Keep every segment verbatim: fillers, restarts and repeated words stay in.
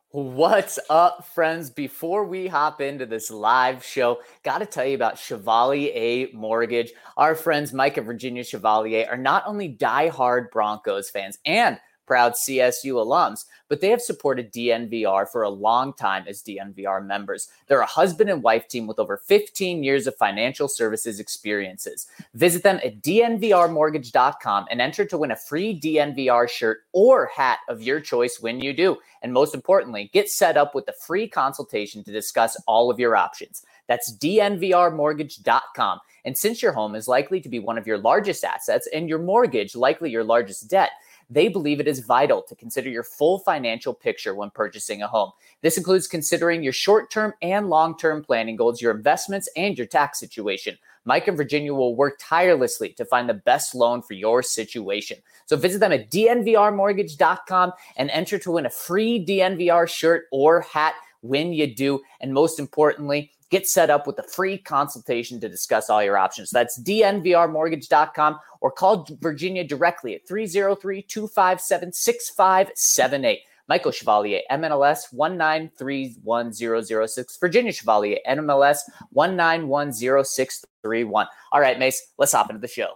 What's up, friends? Before we hop into this live show, got to tell you about Chevalier Mortgage. Our friends Mike and Virginia Chevalier are not only diehard Broncos fans and proud C S U alums, but they have supported D N V R for a long time as D N V R members. They're a husband and wife team with over fifteen years of financial services experiences. Visit them at D N V R mortgage dot com and enter to win a free D N V R shirt or hat of your choice when you do. And most importantly, get set up with a free consultation to discuss all of your options. That's D N V R mortgage dot com. And since your home is likely to be one of your largest assets and your mortgage likely your largest debt, they believe it is vital to consider your full financial picture when purchasing a home. This includes considering your short-term and long-term planning goals, your investments, and your tax situation. Mike and Virginia will work tirelessly to find the best loan for your situation. So visit them at D N V R mortgage dot com and enter to win a free D N V R shirt or hat when you do. And most importantly, get set up with a free consultation to discuss all your options. That's D N V R mortgage dot com or call Virginia directly at three oh three, two five seven, six five seven eight. Michael Chevalier, M L S one nine three one zero zero six. Virginia Chevalier, M L S one nine one zero six three one. All right, Mace, let's hop into the show.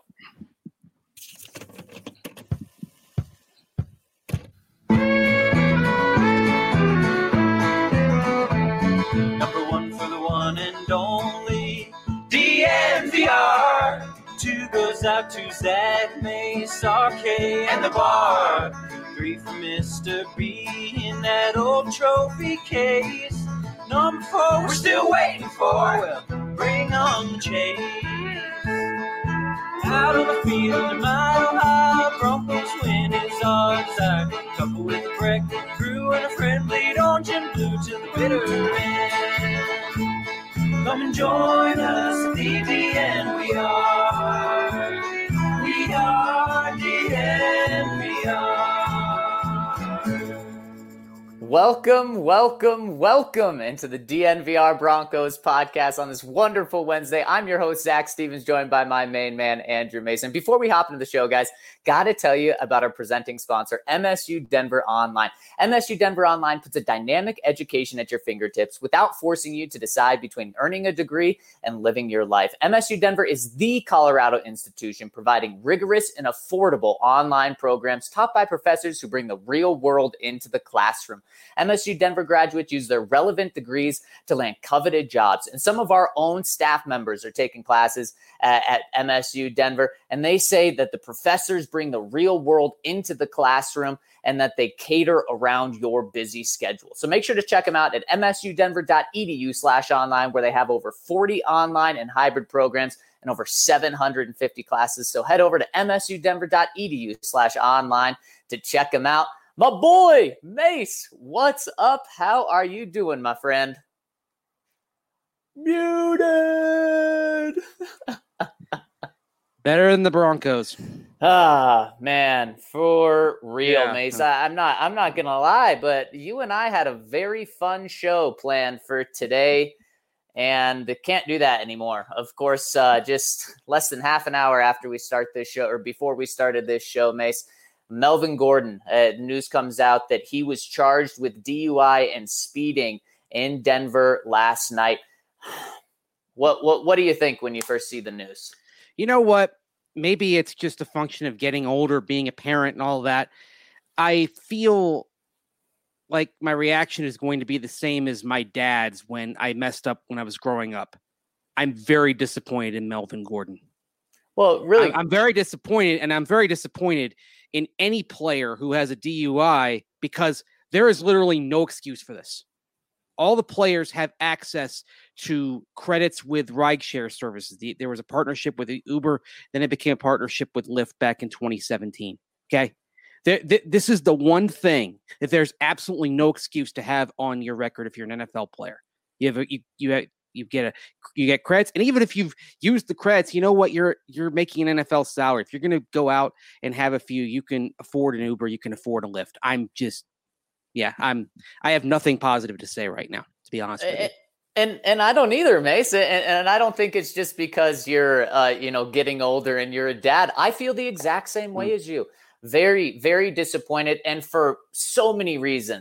Number one for the one and only D N V R. Two goes out to Zach, Mace, R K, and the bar. Three for Mister B in that old trophy case. Number four, we're still waiting for. Well, bring on the chase. Out on the field, a mile high, Broncos win is our desire. Couple with a breakfast crew and a friend, bleed orange and blue to the bitter end. Come and join us at the D N V R. We are D N V R. Welcome, welcome, welcome into the D N V R Broncos podcast on this wonderful Wednesday. I'm your host, Zach Stevens, joined by my main man, Andrew Mason. Before we hop into the show, guys, got to tell you about our presenting sponsor, M S U Denver Online. M S U Denver Online puts a dynamic education at your fingertips without forcing you to decide between earning a degree and living your life. M S U Denver is the Colorado institution providing rigorous and affordable online programs taught by professors who bring the real world into the classroom. M S U Denver graduates use their relevant degrees to land coveted jobs. And some of our own staff members are taking classes at, at M S U Denver, and they say that the professors bring the real world into the classroom and that they cater around your busy schedule. So make sure to check them out at m s u denver dot e d u slash online, where they have over forty online and hybrid programs and over seven hundred fifty classes. So head over to m s u denver dot e d u slash online to check them out. My boy, Mace, what's up? How are you doing, my friend? Muted. Better than the Broncos. Ah, man, for real, Yeah. Mace. I, I'm not I'm not gonna lie, but you and I had a very fun show planned for today, and can't do that anymore. Of course, uh, just less than half an hour after we start this show, or before we started this show, Mace, Melvin Gordon, uh, news comes out that he was charged with D U I and speeding in Denver last night. What what what do you think when you first see the news? You know what? Maybe it's just a function of getting older, being a parent and all that. I feel like my reaction is going to be the same as my dad's when I messed up when I was growing up. I'm very disappointed in Melvin Gordon. Well, really, I'm, I'm very disappointed, and I'm very disappointed in any player who has a D U I because there is literally no excuse for this. All the players have access to credits with rideshare services. The, there was a partnership with Uber, then it became a partnership with Lyft back in twenty seventeen. Okay. There, th- this is the one thing that there's absolutely no excuse to have on your record if you're an N F L player. You have a, you you have, you get a you get credits, and even if you've used the credits, you know what, you're you're making an N F L salary. If you're going to go out and have a few, you can afford an Uber, you can afford a Lyft. I'm just yeah, I'm I have nothing positive to say right now, to be honest with you. And and I don't either, Mace. And, and I don't think it's just because you're, uh, you know, getting older and you're a dad. I feel the exact same way mm. as you. Very, very disappointed. And for so many reasons.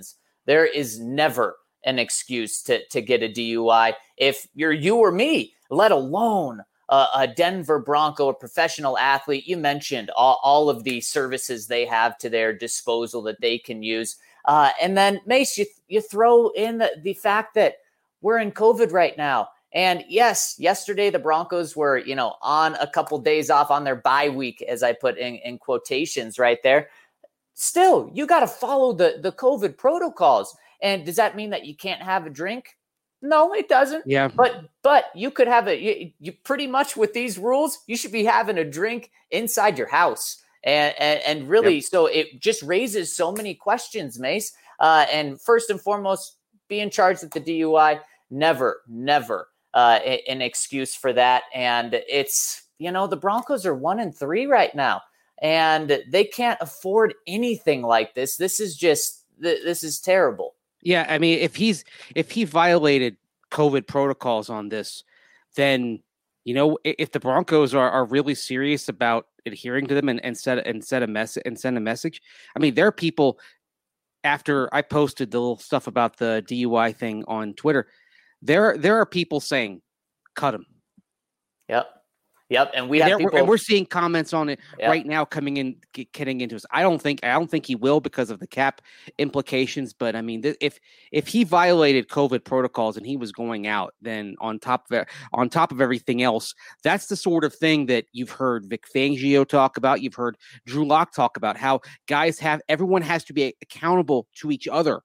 There is never an excuse to, to get a D U I if you're you or me, let alone a, a Denver Bronco, a professional athlete. You mentioned all, all of the services they have to their disposal that they can use. Uh, and then, Mace, you, you throw in the, the fact that we're in COVID right now. And yes, yesterday the Broncos were, you know, on a couple days off on their bye week, as I put in, in quotations right there. Still, you got to follow the, the COVID protocols. And does that mean that you can't have a drink? No, it doesn't. Yeah. But but you could have a you, you pretty much with these rules, you should be having a drink inside your house. And and, and really, yep. So it just raises so many questions, Mace. Uh, and first and foremost, being charged with the D U I, never, never uh, an excuse for that. And it's, you know, the Broncos are one and three right now, and they can't afford anything like this. This is just this is terrible. Yeah, I mean, if he's if he violated COVID protocols on this, then, you know, if the Broncos are, are really serious about adhering to them and, and set and set a mess and send a message. I mean, there are people, after I posted the little stuff about the D U I thing on Twitter, there there are people saying, cut him. Yep. Yep, and we and, have people, and we're seeing comments on it yep. right now coming in, getting into us. I don't think I don't think he will because of the cap implications. But I mean, th- if if he violated COVID protocols and he was going out, then on top of it, on top of everything else, that's the sort of thing that you've heard Vic Fangio talk about. You've heard Drew Lock talk about how guys have everyone has to be accountable to each other.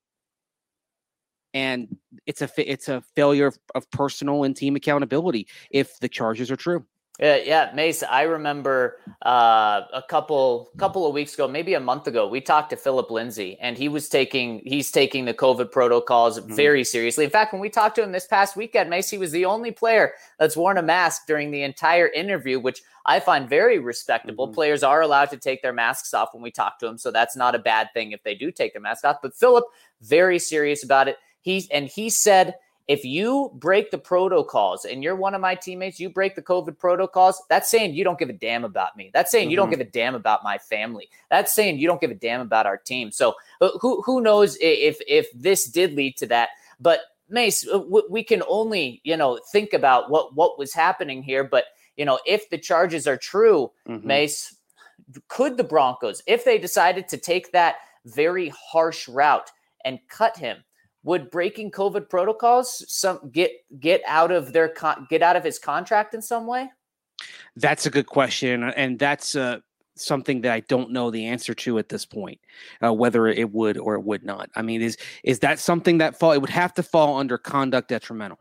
And it's a it's a failure of, of personal and team accountability if the charges are true. Yeah, yeah, Mace. I remember uh, a couple couple of weeks ago, maybe a month ago, we talked to Philip Lindsay, and he was taking he's taking the COVID protocols mm-hmm. very seriously. In fact, when we talked to him this past weekend, Mace, he was the only player that's worn a mask during the entire interview, which I find very respectable. Mm-hmm. Players are allowed to take their masks off when we talk to them, so that's not a bad thing if they do take their mask off. But Philip, very serious about it. He's and he said, if you break the protocols and you're one of my teammates, you break the COVID protocols, that's saying you don't give a damn about me. That's saying mm-hmm. you don't give a damn about my family. That's saying you don't give a damn about our team. So uh, who who knows if if this did lead to that. But Mace, w- we can only, you know, think about what, what was happening here. But, you know, if the charges are true, mm-hmm. Mace, could the Broncos, if they decided to take that very harsh route and cut him, would breaking COVID protocols some get get out of their con- get out of his contract in some way? That's a good question, and that's uh, something that I don't know the answer to at this point, uh, whether it would or it would not. I mean, is is that something that fall? It would have to fall under conduct detrimental.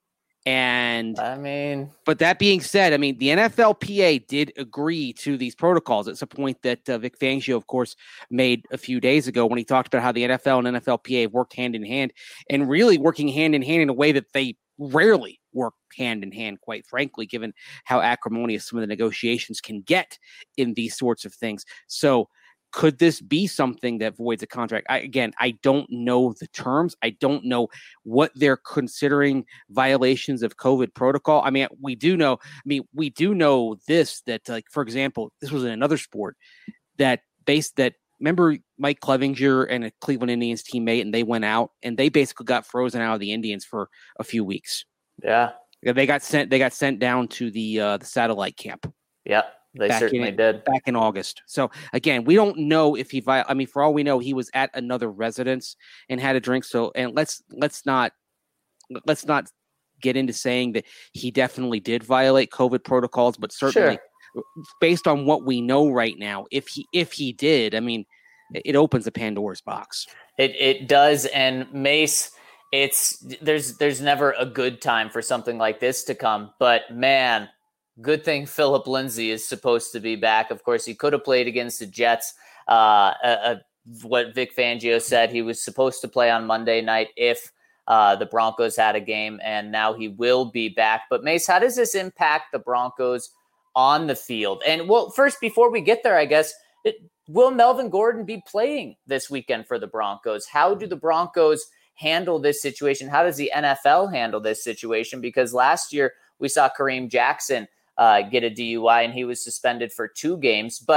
And I mean, but that being said, I mean, the N F L P A did agree to these protocols. It's a point that uh, Vic Fangio, of course, made a few days ago when he talked about how the N F L and N F L P A worked hand in hand, and really working hand in hand in a way that they rarely work hand in hand, quite frankly, given how acrimonious some of the negotiations can get in these sorts of things. So could this be something that voids a contract? I, again, I don't know the terms. I don't know what they're considering violations of COVID protocol. I mean, we do know, I mean, we do know this, that like, for example, this was in another sport that based that, remember Mike Clevinger and a Cleveland Indians teammate, and they went out and they basically got frozen out of the Indians for a few weeks. Yeah. They got sent, they got sent down to the, uh, the satellite camp. Yeah. They back certainly in, did back in August. So again, we don't know if he, vi- I mean, for all we know, he was at another residence and had a drink. So, and let's, let's not, let's not get into saying that he definitely did violate COVID protocols, but certainly sure. based on what we know right now, if he, if he did, I mean, it opens a Pandora's box. It it does. And Mace, it's, there's, there's never a good time for something like this to come, but man, good thing Philip Lindsay is supposed to be back. Of course, he could have played against the Jets. Uh, uh, what Vic Fangio said, he was supposed to play on Monday night if uh, the Broncos had a game, and now he will be back. But Mace, how does this impact the Broncos on the field? And well, first, before we get there, I guess, it, will Melvin Gordon be playing this weekend for the Broncos? How do the Broncos handle this situation? How does the N F L handle this situation? Because last year we saw Kareem Jackson Uh, get a D U I, and he was suspended for two games. But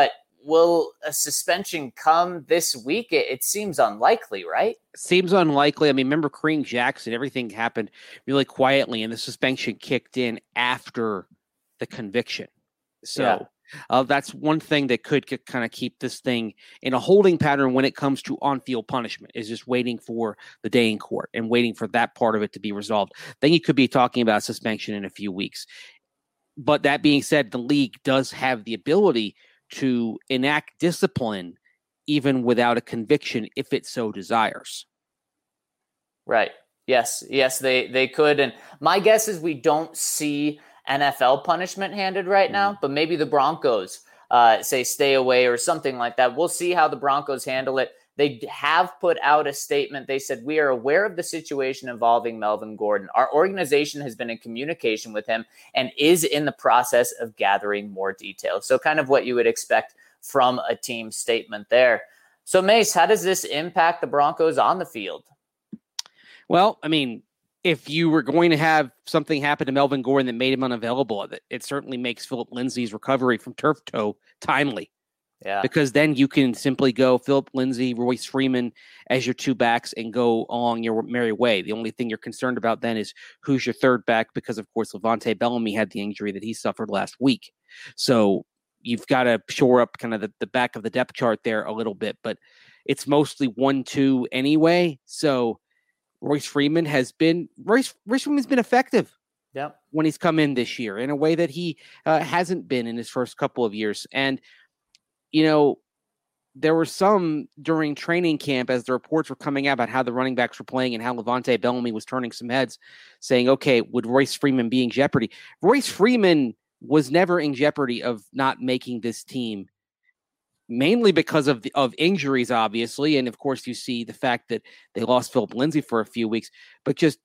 will a suspension come this week? It, it seems unlikely, right? Seems unlikely. I mean, remember Kareem Jackson, everything happened really quietly, and the suspension kicked in after the conviction. So yeah. uh, that's one thing that could kind of keep this thing in a holding pattern when it comes to on-field punishment, is just waiting for the day in court and waiting for that part of it to be resolved. Then you could be talking about suspension in a few weeks. But that being said, the league does have the ability to enact discipline even without a conviction if it so desires. Right. Yes. Yes, they, they could. And my guess is we don't see N F L punishment handed right now, but maybe the Broncos uh, say stay away or something like that. We'll see how the Broncos handle it. They have put out a statement. They said, we are aware of the situation involving Melvin Gordon. Our organization has been in communication with him and is in the process of gathering more details. So kind of what you would expect from a team statement there. So Mace, how does this impact the Broncos on the field? Well, I mean, if you were going to have something happen to Melvin Gordon that made him unavailable, it certainly makes Philip Lindsay's recovery from turf toe timely. Yeah. Because then you can simply go Philip Lindsay, Royce Freeman as your two backs and go along your merry way. The only thing you're concerned about then is who's your third back, because, of course, Levante Bellamy had the injury that he suffered last week. So you've got to shore up kind of the, the back of the depth chart there a little bit, but it's mostly one two anyway. So Royce Freeman has been Royce, Royce Freeman's been effective. Yep. When he's come in this year in a way that he uh, hasn't been in his first couple of years. And you know, there were some during training camp as the reports were coming out about how the running backs were playing and how Levante Bellamy was turning some heads, saying, okay, would Royce Freeman be in jeopardy? Royce Freeman was never in jeopardy of not making this team, mainly because of the, of injuries, obviously. And of course, you see the fact that they lost Philip Lindsay for a few weeks, but just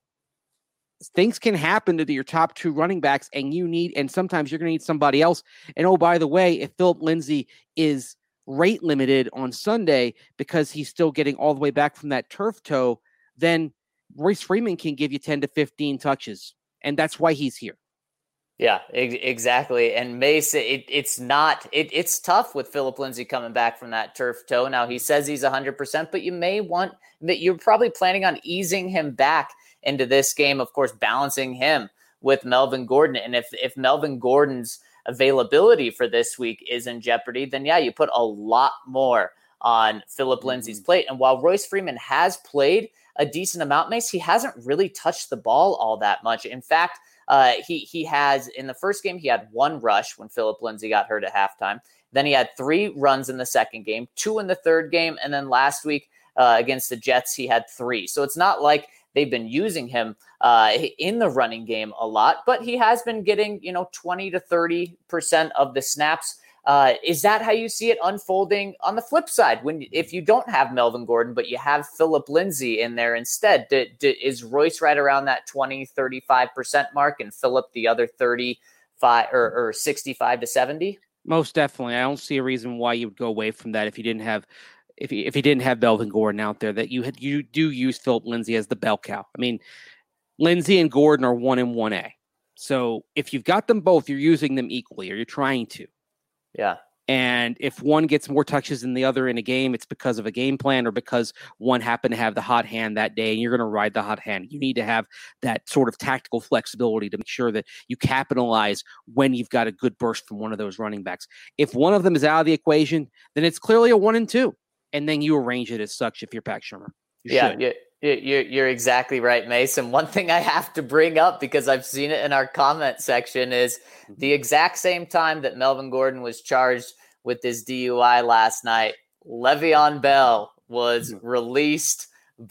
things can happen to your top two running backs, and you need, and sometimes you're going to need somebody else. And oh, by the way, if Philip Lindsay is rate limited on Sunday because he's still getting all the way back from that turf toe, then Royce Freeman can give you ten to fifteen touches. And that's why he's here. Yeah, exactly. And Mace, it, it's not, it, it's tough with Philip Lindsay coming back from that turf toe. Now he says he's one hundred percent, but you may want that. You're probably planning on easing him back into this game, of course, balancing him with Melvin Gordon. And if, if Melvin Gordon's availability for this week is in jeopardy, then yeah, you put a lot more on Philip Lindsay's plate. And while Royce Freeman has played a decent amount, Mace, he hasn't really touched the ball all that much. In fact, uh, he, he has, in the first game, he had one rush when Philip Lindsay got hurt at halftime. Then he had three runs in the second game, two in the third game. And then last week uh, against the Jets, he had three. So it's not like they've been using him uh, in the running game a lot, but he has been getting, you know, twenty to thirty percent of the snaps. Uh, is that how you see it unfolding on the flip side? When, if you don't have Melvin Gordon, but you have Philip Lindsay in there instead, do, do, is Royce right around that twenty, thirty-five percent mark and Philip the other thirty-five or, or sixty-five to seventy? Most definitely. I don't see a reason why you would go away from that if you didn't have If he, if he didn't have Melvin Gordon out there, that you had, you do use Philip Lindsay as the bell cow. I mean, Lindsay and Gordon are one and one A. So if you've got them both, you're using them equally, or you're trying to. Yeah. And if one gets more touches than the other in a game, it's because of a game plan or because one happened to have the hot hand that day and you're going to ride the hot hand. You need to have that sort of tactical flexibility to make sure that you capitalize when you've got a good burst from one of those running backs. If one of them is out of the equation, then it's clearly a one and two. And then you arrange it as such if you're Pat Shurmur. You yeah, should. yeah. You're, you're exactly right, Mason. One thing I have to bring up, because I've seen it in our comment section, is the exact same time that Melvin Gordon was charged with this D U I last night, Le'Veon Bell was released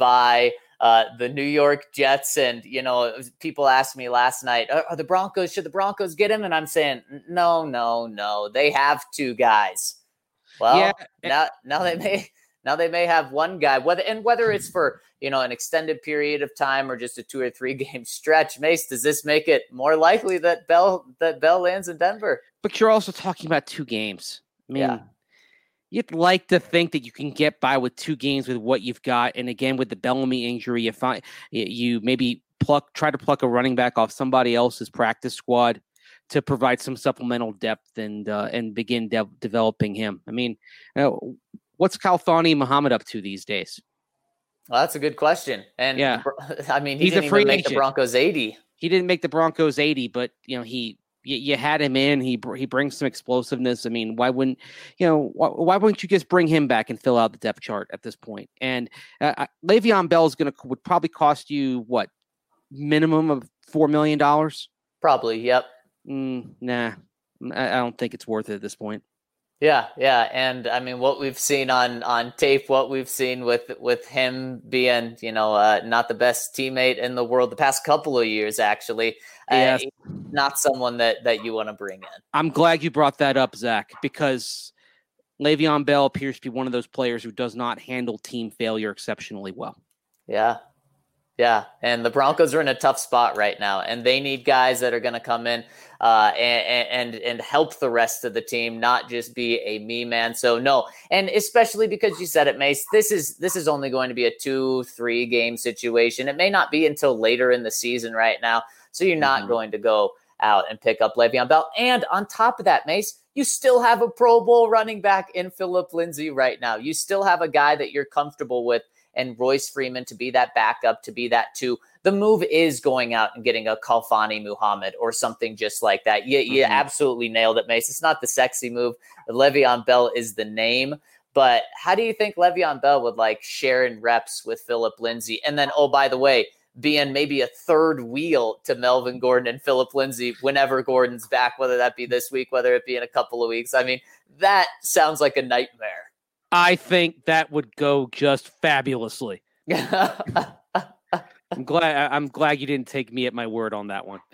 by uh, the New York Jets. And, you know, people asked me last night, are, are the Broncos, should the Broncos get him? And I'm saying, no, no, no. They have two guys. Well, yeah. now, now they may... Now they may have one guy, whether and whether it's for, you know, an extended period of time or just a two or three game stretch. Mace, does this make it more likely that Bell that Bell lands in Denver? But you're also talking about two games. I mean, yeah. You'd like to think that you can get by with two games with what you've got, and again with the Bellamy injury, you find you maybe pluck try to pluck a running back off somebody else's practice squad to provide some supplemental depth and uh, and begin de- developing him. I mean, uh, what's Khalfani Muhammad up to these days? Well, that's a good question. And yeah, I mean, he he's didn't a free even make agent. the Broncos eighty. He didn't make the Broncos eighty, but you know, he you, you had him in. He he brings some explosiveness. I mean, why wouldn't you know? Why, why wouldn't you just bring him back and fill out the depth chart at this point? And uh, Le'Veon Bell is going to would probably cost you what minimum of four million dollars. Probably, yep. Mm, nah, I, I don't think it's worth it at this point. Yeah, yeah, and I mean, what we've seen on on tape, what we've seen with with him being, you know, uh, not the best teammate in the world the past couple of years, actually, yes. uh, not someone that that you want to bring in. I'm glad you brought that up, Zach, because Le'Veon Bell appears to be one of those players who does not handle team failure exceptionally well. Yeah. Yeah, and the Broncos are in a tough spot right now, and they need guys that are going to come in uh, and, and and help the rest of the team, not just be a me man. So no, and especially because you said it, Mace, this is this is only going to be a two, three game situation. It may not be until later in the season right now, so you're not mm-hmm. going to go out and pick up Le'Veon Bell. And on top of that, Mace, you still have a Pro Bowl running back in Phillip Lindsay right now. You still have a guy that you're comfortable with. And Royce Freeman to be that backup, to be that two. The move is going out and getting a Khalfani Muhammad or something just like that. You, you mm-hmm. absolutely nailed it, Mace. It's not the sexy move. Le'Veon Bell is the name. But how do you think Le'Veon Bell would like sharing reps with Phillip Lindsay? And then, oh, by the way, being maybe a third wheel to Melvin Gordon and Phillip Lindsay whenever Gordon's back, whether that be this week, whether it be in a couple of weeks. I mean, that sounds like a nightmare. I think that would go just fabulously. I'm glad. I'm glad you didn't take me at my word on that one.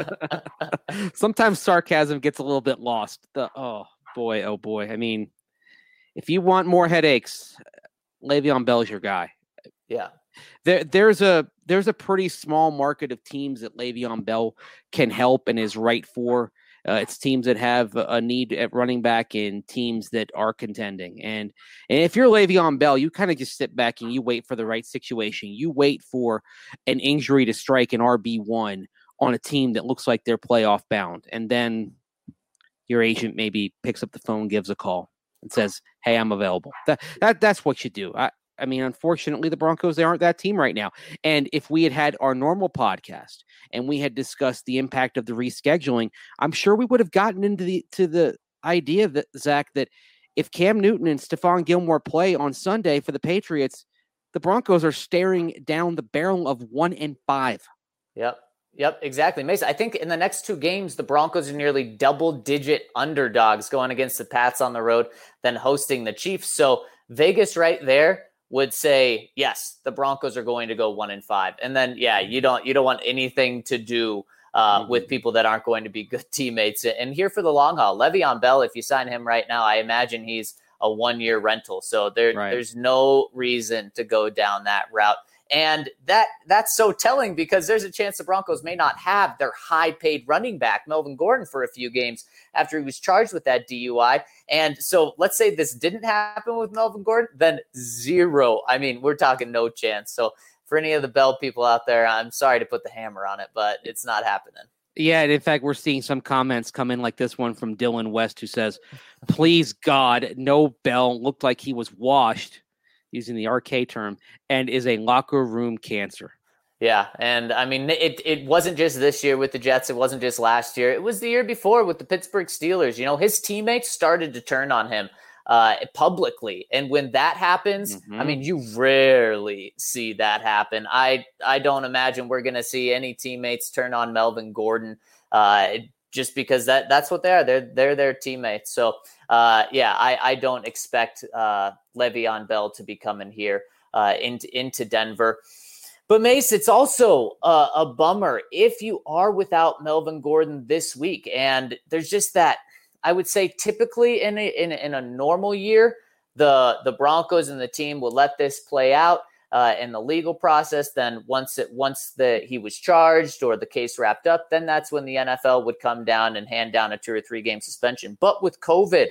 Sometimes sarcasm gets a little bit lost. The, oh boy, oh boy. I mean, if you want more headaches, Le'Veon Bell's your guy. Yeah. There, there's a there's a pretty small market of teams that Le'Veon Bell can help and is right for. Uh, it's teams that have a need at running back and teams that are contending. And, and if you're Le'Veon Bell, you kind of just sit back and you wait for the right situation. You wait for an injury to strike an R B one on a team that looks like they're playoff bound. And then your agent maybe picks up the phone, gives a call and says, hey, I'm available. That, that That's what you do. I, I mean, unfortunately, the Broncos, they aren't that team right now. And if we had had our normal podcast and we had discussed the impact of the rescheduling, I'm sure we would have gotten into the to the idea that, Zach, that if Cam Newton and Stephon Gilmore play on Sunday for the Patriots, the Broncos are staring down the barrel of one and five. Yep. Yep, exactly. Mason, I think in the next two games, the Broncos are nearly double-digit underdogs going against the Pats on the road, then hosting the Chiefs. So Vegas right there would say, yes, the Broncos are going to go one and five. And then, yeah, you don't you don't want anything to do uh, mm-hmm. with people that aren't going to be good teammates. And here for the long haul, Le'Veon Bell, if you sign him right now, I imagine he's a one-year rental. So there, right. there's no reason to go down that route. And that that's so telling because there's a chance the Broncos may not have their high-paid running back, Melvin Gordon, for a few games after he was charged with that D U I. And so let's say this didn't happen with Melvin Gordon, then zero. I mean, we're talking no chance. So for any of the Bell people out there, I'm sorry to put the hammer on it, but it's not happening. Yeah, and in fact, we're seeing some comments come in like this one from Dylan West, who says, please, God, no Bell. Looked like he was washed, using the R K term, and is a locker room cancer. Yeah, and I mean, it it wasn't just this year with the Jets. It wasn't just last year. It was the year before with the Pittsburgh Steelers. You know, his teammates started to turn on him uh, publicly. And when that happens, mm-hmm. I mean, you rarely see that happen. I, I don't imagine we're going to see any teammates turn on Melvin Gordon uh, just because that that's what they are. They're, they're their teammates. So, uh, yeah, I, I don't expect uh, Le'Veon Bell to be coming here uh, into, into Denver. But Mace, it's also a, a bummer if you are without Melvin Gordon this week. And there's just that, I would say typically in a, in, in a normal year, the, the Broncos and the team will let this play out uh, in the legal process. Then once it, once the, he was charged or the case wrapped up, then that's when the N F L would come down and hand down a two or three game suspension. But with COVID,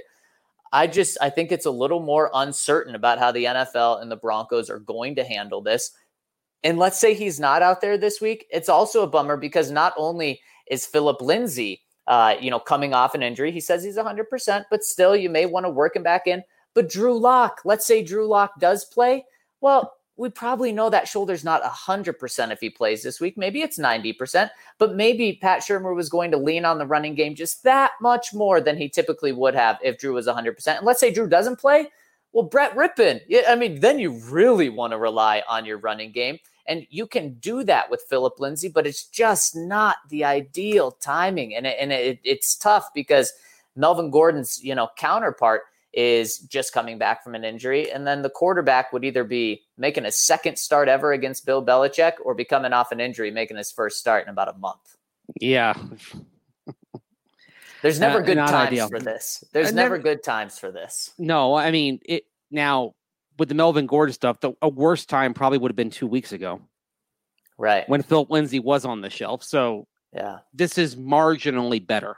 I just, I think it's a little more uncertain about how the N F L and the Broncos are going to handle this. And let's say he's not out there this week. It's also a bummer because not only is Phillip Lindsay uh, you know, coming off an injury. He says he's one hundred percent, but still you may want to work him back in. But Drew Lock, let's say Drew Lock does play. Well, we probably know that shoulder's not one hundred percent if he plays this week. Maybe it's ninety percent, but maybe Pat Shurmur was going to lean on the running game just that much more than he typically would have if Drew was one hundred percent. And let's say Drew doesn't play. Well, Brett Rippon, I mean, then you really want to rely on your running game. And you can do that with Phillip Lindsay, but it's just not the ideal timing. And, it, and it, it's tough because Melvin Gordon's, you know, counterpart is just coming back from an injury. And then the quarterback would either be making a second start ever against Bill Belichick or be coming off an injury, making his first start in about a month. Yeah. There's never uh, good times ideal. for this. There's never, never good times for this. No, I mean, it now with the Melvin Gordon stuff, the a worse time probably would have been two weeks ago. Right. When Phillip Lindsay was on the shelf. So yeah, this is marginally better.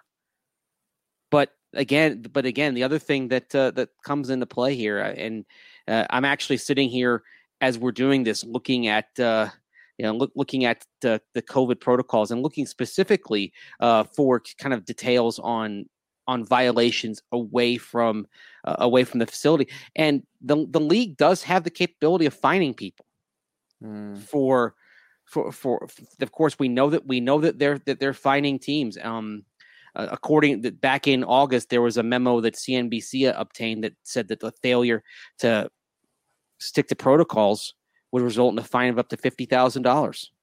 But Again, but again, the other thing that uh, that comes into play here, and uh, I'm actually sitting here as we're doing this, looking at uh, you know look, looking at the, the COVID protocols and looking specifically uh, for kind of details on on violations away from uh, away from the facility, and the the league does have the capability of fining people mm. for, for for for. Of course, we know that we know that they're that they're fining teams. Um, Uh, according to, back in August, there was a memo that C N B C obtained that said that the failure to stick to protocols would result in a fine of up to fifty thousand dollars.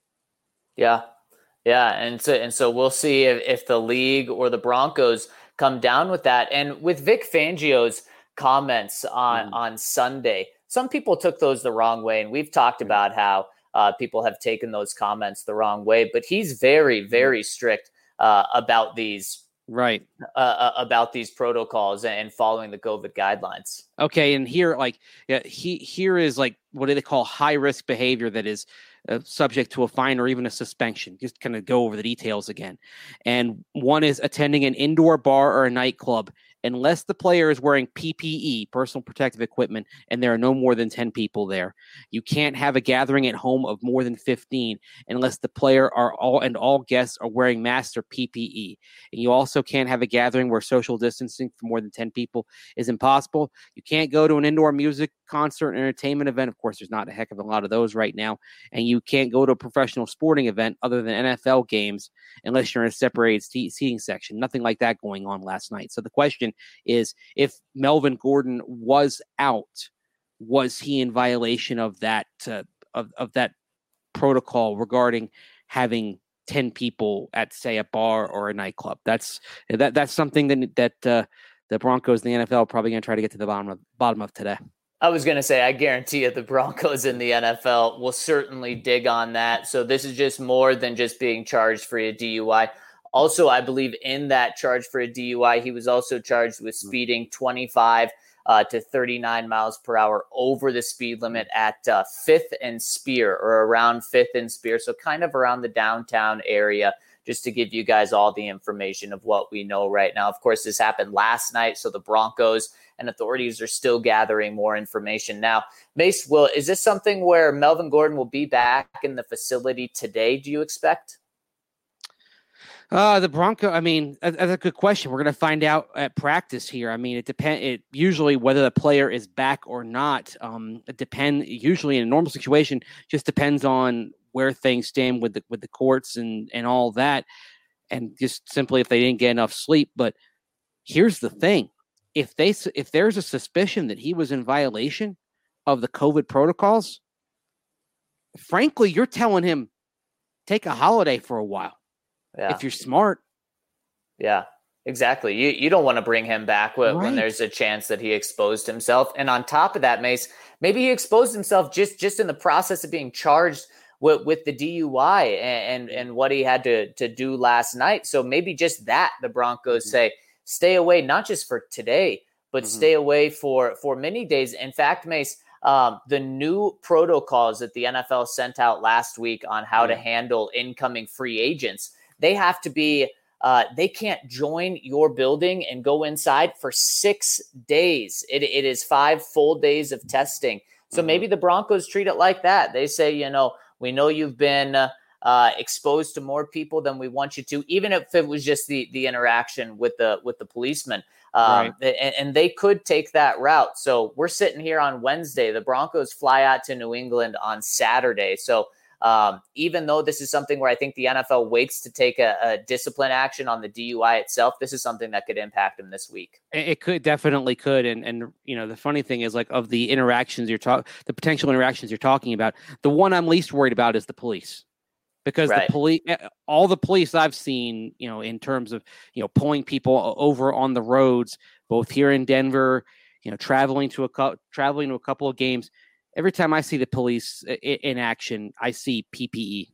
Yeah. Yeah. And so, and so we'll see if, if the league or the Broncos come down with that. And with Vic Fangio's comments on, mm. on Sunday, some people took those the wrong way. And we've talked mm. about how uh, people have taken those comments the wrong way, but he's very, very mm. strict Uh, about these right uh, about these protocols and following the COVID guidelines. Okay, and here, like, yeah, he here is like what do they call high risk behavior that is uh, subject to a fine or even a suspension. Just kind of go over the details again. And one is attending an indoor bar or a nightclub unless the player is wearing P P E, personal protective equipment, and there are no more than ten people there. You can't have a gathering at home of more than fifteen unless the player are all and all guests are wearing masks or P P E. And you also can't have a gathering where social distancing for more than ten people is impossible. You can't go to an indoor music concert, entertainment event. Of course, there's not a heck of a lot of those right now. And you can't go to a professional sporting event other than N F L games unless you're in a separated seating section. Nothing like that going on last night. So the question is, if Melvin Gordon was out, was he in violation of that uh, of, of that protocol regarding having ten people at, say, a bar or a nightclub? That's that that's something that that uh, the Broncos and the N F L are probably going to try to get to the bottom of bottom of today. I was going to say, I guarantee you the Broncos in the N F L will certainly dig on that. So this is just more than just being charged for a D U I. Also, I believe in that charge for a D U I, he was also charged with speeding twenty-five uh, to thirty-nine miles per hour over the speed limit at uh, fifth and Spear, or around fifth and Spear. So kind of around the downtown area, just to give you guys all the information of what we know right now. Of course, this happened last night, so the Broncos and authorities are still gathering more information. Now, Mace, will is this something where Melvin Gordon will be back in the facility today, do you expect? Uh, the Bronco, I mean, that's a good question. We're going to find out at practice here. I mean, it depends. It usually whether the player is back or not. Um, it depend. Usually, in a normal situation, just depends on where things stand with the with the courts and and all that, and just simply if they didn't get enough sleep. But here's the thing: if they if there's a suspicion that he was in violation of the COVID protocols, frankly, you're telling him take a holiday for a while. Yeah. If you're smart. Yeah, exactly. You you don't want to bring him back when, right. when there's a chance that he exposed himself. And on top of that, Mace, maybe he exposed himself just, just in the process of being charged with, with the D U I and, and, and what he had to, to do last night. So maybe just that the Broncos mm-hmm. say, stay away, not just for today, but mm-hmm. stay away for, for many days. In fact, Mace, Um, the new protocols that the N F L sent out last week on how yeah. to handle incoming free agents, they have to be, uh, they can't join your building and go inside for six days. It, it is five full days of testing. So mm-hmm. maybe the Broncos treat it like that. They say, you know, we know you've been uh, uh, exposed to more people than we want you to, even if it was just the the interaction with the with the policeman. Um, right. and, and they could take that route. So we're sitting here on Wednesday. The Broncos fly out to New England on Saturday. So um, even though this is something where I think the N F L waits to take a, a discipline action on the D U I itself, this is something that could impact them this week. It could definitely could. And, and, you know, the funny thing is, like, of the interactions you're talking, the potential interactions you're talking about, the one I'm least worried about is the police. Because right. the police, all the police I've seen, you know, in terms of, you know, pulling people over on the roads, both here in Denver, you know, traveling to a co- traveling to a couple of games. Every time I see the police in action, I see P P E.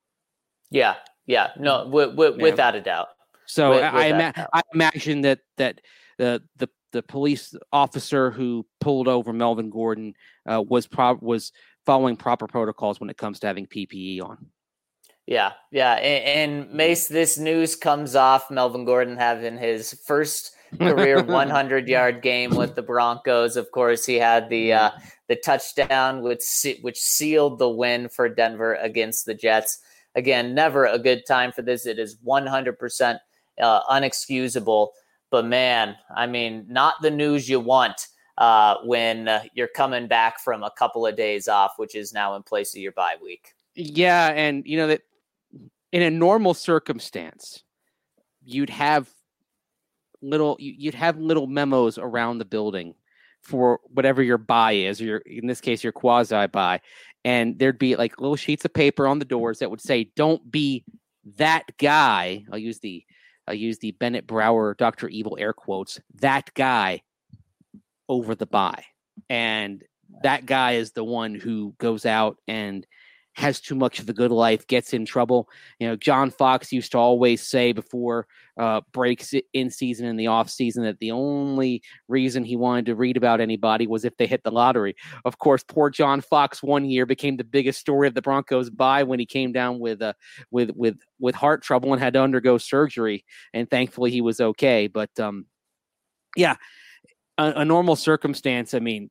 Yeah, yeah, no, w- w- yeah. without a doubt. So with, I, ima- doubt. I imagine that that the the the police officer who pulled over Melvin Gordon uh, was pro- was following proper protocols when it comes to having P P E on. Yeah, yeah. And, and Mace, this news comes off Melvin Gordon having his first career hundred-yard game with the Broncos. Of course, he had the uh, the touchdown, which which sealed the win for Denver against the Jets. Again, never a good time for this. It is one hundred percent uh, unexcusable. But, man, I mean, not the news you want uh, when uh, you're coming back from a couple of days off, which is now in place of your bye week. Yeah, and, you know, that in a normal circumstance, you'd have little you'd have little memos around the building for whatever your buy is, or your, in this case, your quasi buy, and there'd be like little sheets of paper on the doors that would say, "Don't be that guy." I'll use the I'll use the Bennett Brower Doctor Evil air quotes. That guy over the buy, and that guy is the one who goes out and has too much of the good life, gets in trouble. You know, John Fox used to always say before uh, breaks in season and the off season that the only reason he wanted to read about anybody was if they hit the lottery. Of course, poor John Fox one year became the biggest story of the Broncos bye when he came down with uh, with with with heart trouble and had to undergo surgery. And thankfully, he was okay. But um, yeah, a, a normal circumstance. I mean,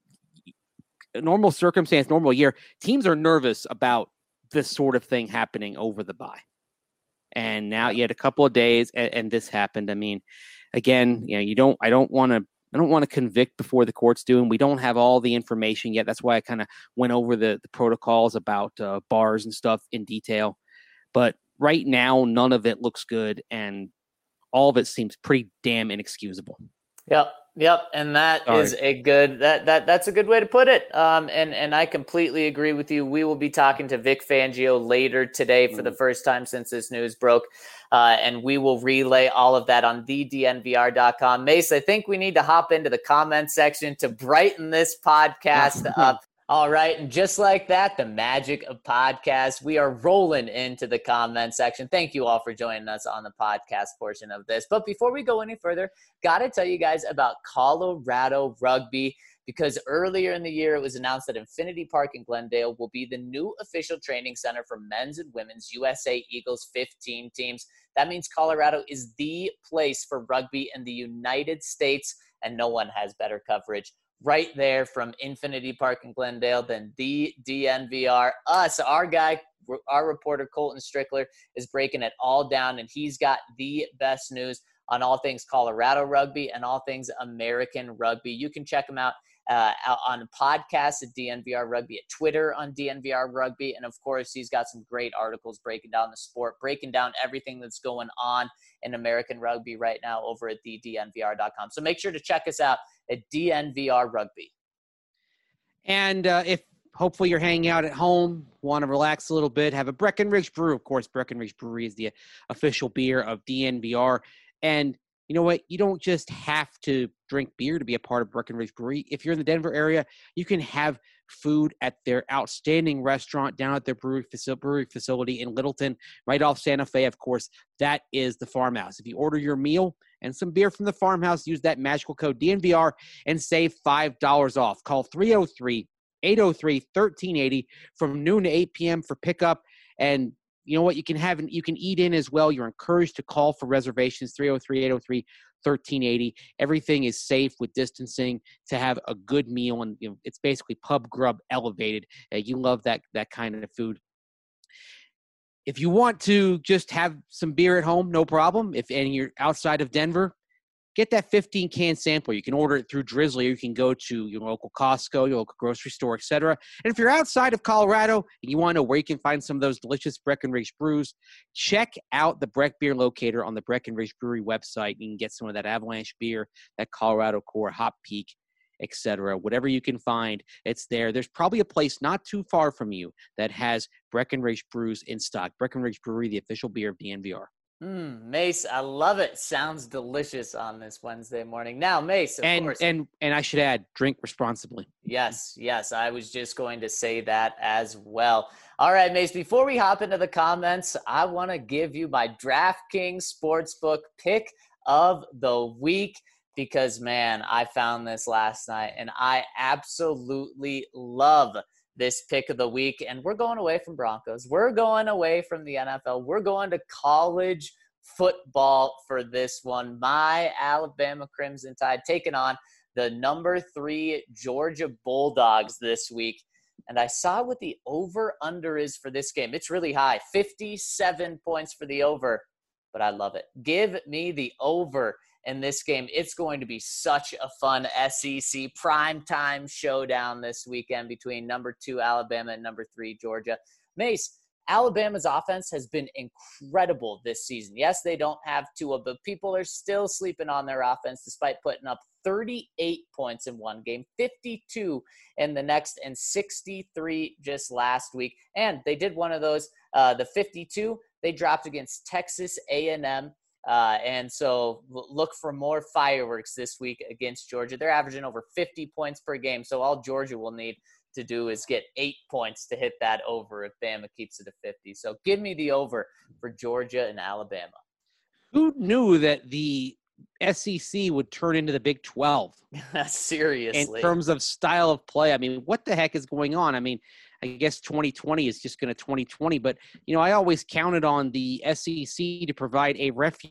a normal circumstance, normal year. Teams are nervous about this sort of thing happening over the bye. And now you had a couple of days and, and this happened. I mean, again, you know, you don't, I don't want to, I don't want to convict before the courts do. And we don't have all the information yet. That's why I kind of went over the, the protocols about uh, bars and stuff in detail. But right now, none of it looks good. And all of it seems pretty damn inexcusable. Yep. Yep, and that Sorry. is a good that that that's a good way to put it. Um, and and I completely agree with you. We will be talking to Vic Fangio later today for the first time since this news broke, uh, and we will relay all of that on the D N V R dot com. Mace, I think we need to hop into the comment section to brighten this podcast up. All right, and just like that, the magic of podcasts, we are rolling into the comment section. Thank you all for joining us on the podcast portion of this. But before we go any further, got to tell you guys about Colorado Rugby, because earlier in the year, it was announced that Infinity Park in Glendale will be the new official training center for men's and women's U S A Eagles fifteen teams. That means Colorado is the place for rugby in the United States, and no one has better coverage right there from Infinity Park in Glendale than the D N V R. Us, our guy, our reporter Colton Strickler is breaking it all down, and he's got the best news on all things Colorado rugby and all things American rugby. You can check him out uh, on podcasts at D N V R Rugby, at Twitter on D N V R Rugby, and of course, he's got some great articles breaking down the sport, breaking down everything that's going on in American rugby right now over at the D N V R dot com. So make sure to check us out at D N V R Rugby. And uh, if hopefully you're hanging out at home, want to relax a little bit, have a Breckenridge Brew. Of course, Breckenridge Brewery is the official beer of D N V R. And you know what? You don't just have to drink beer to be a part of Breckenridge Brewery. If you're in the Denver area, you can have food at their outstanding restaurant down at their brewery, faci- brewery facility in Littleton, right off Santa Fe. Of course, that is the Farmhouse. If you order your meal and some beer from the Farmhouse, use that magical code D N V R and save five dollars off. Call three oh three, eight oh three, one three eight oh from noon to eight p.m. for pickup. And you know what? You can have, you can eat in as well. You're encouraged to call for reservations, three oh three, eight oh three, one three eight oh. Everything is safe with distancing to have a good meal. And you know, it's basically pub grub elevated. Uh, you love that, that kind of food. if you want to just have some beer at home, no problem. If and you're outside of Denver, get that fifteen can sample. You can order it through Drizzly, or you can go to your local Costco, your local grocery store, et cetera. And if you're outside of Colorado and you want to know where you can find some of those delicious Breckenridge brews, check out the Breck Beer Locator on the Breckenridge Brewery website. You can get some of that Avalanche beer, that Colorado Core, Hop Peak, et cetera. Whatever you can find, it's there. There's probably a place not too far from you that has Breckenridge brews in stock. Breckenridge Brewery, the official beer of D N V R. Mm, Mace, I love it. Sounds delicious on this Wednesday morning. Now, Mace, of and, course. And and I should add, drink responsibly. Yes, yes. I was just going to say that as well. All right, Mace, before we hop into the comments, I want to give you my DraftKings Sportsbook pick of the week because, man, I found this last night and I absolutely love this pick of the week. And we're going away from Broncos. We're going away from the N F L. We're going to college football for this one. My Alabama Crimson Tide taking on the number three Georgia Bulldogs this week. And I saw what the over-under is for this game. It's really high, fifty-seven points for the over, but I love it. Give me the over in this game. It's going to be such a fun S E C primetime showdown this weekend between number two Alabama and number three Georgia. Mace, Alabama's offense has been incredible this season. Yes, they don't have Tua, but people are still sleeping on their offense despite putting up thirty-eight points in one game, fifty-two in the next, and sixty-three just last week. And they did one of those, uh, the fifty-two, they dropped against Texas A and M. Uh, and so look for more fireworks this week against Georgia. They're averaging over fifty points per game. So all Georgia will need to do is get eight points to hit that over if Bama keeps it to fifty. So give me the over for Georgia and Alabama. Who knew that the S E C would turn into the Big twelve? Seriously. In terms of style of play. I mean, what the heck is going on? I mean, I guess twenty twenty is just going to twenty twenty, but, you know, I always counted on the S E C to provide a refuge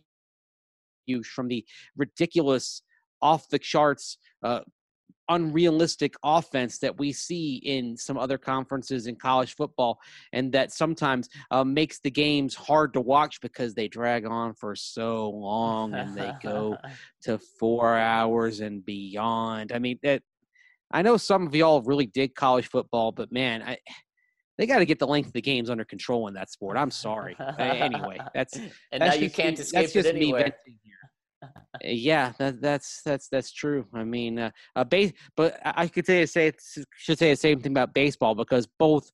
from the ridiculous, off-the-charts, uh, unrealistic offense that we see in some other conferences in college football, and that sometimes uh, makes the games hard to watch because they drag on for so long and they go to four hours and beyond. I mean, that, I know some of y'all really dig college football, but man, I, they got to get the length of the games under control in that sport. I'm sorry. uh, anyway, that's and that's now you can't me, escape that's just it anywhere. Me venting here. Yeah, that, that's that's that's true. I mean, uh, uh, base, but I could say say should say the same thing about baseball because both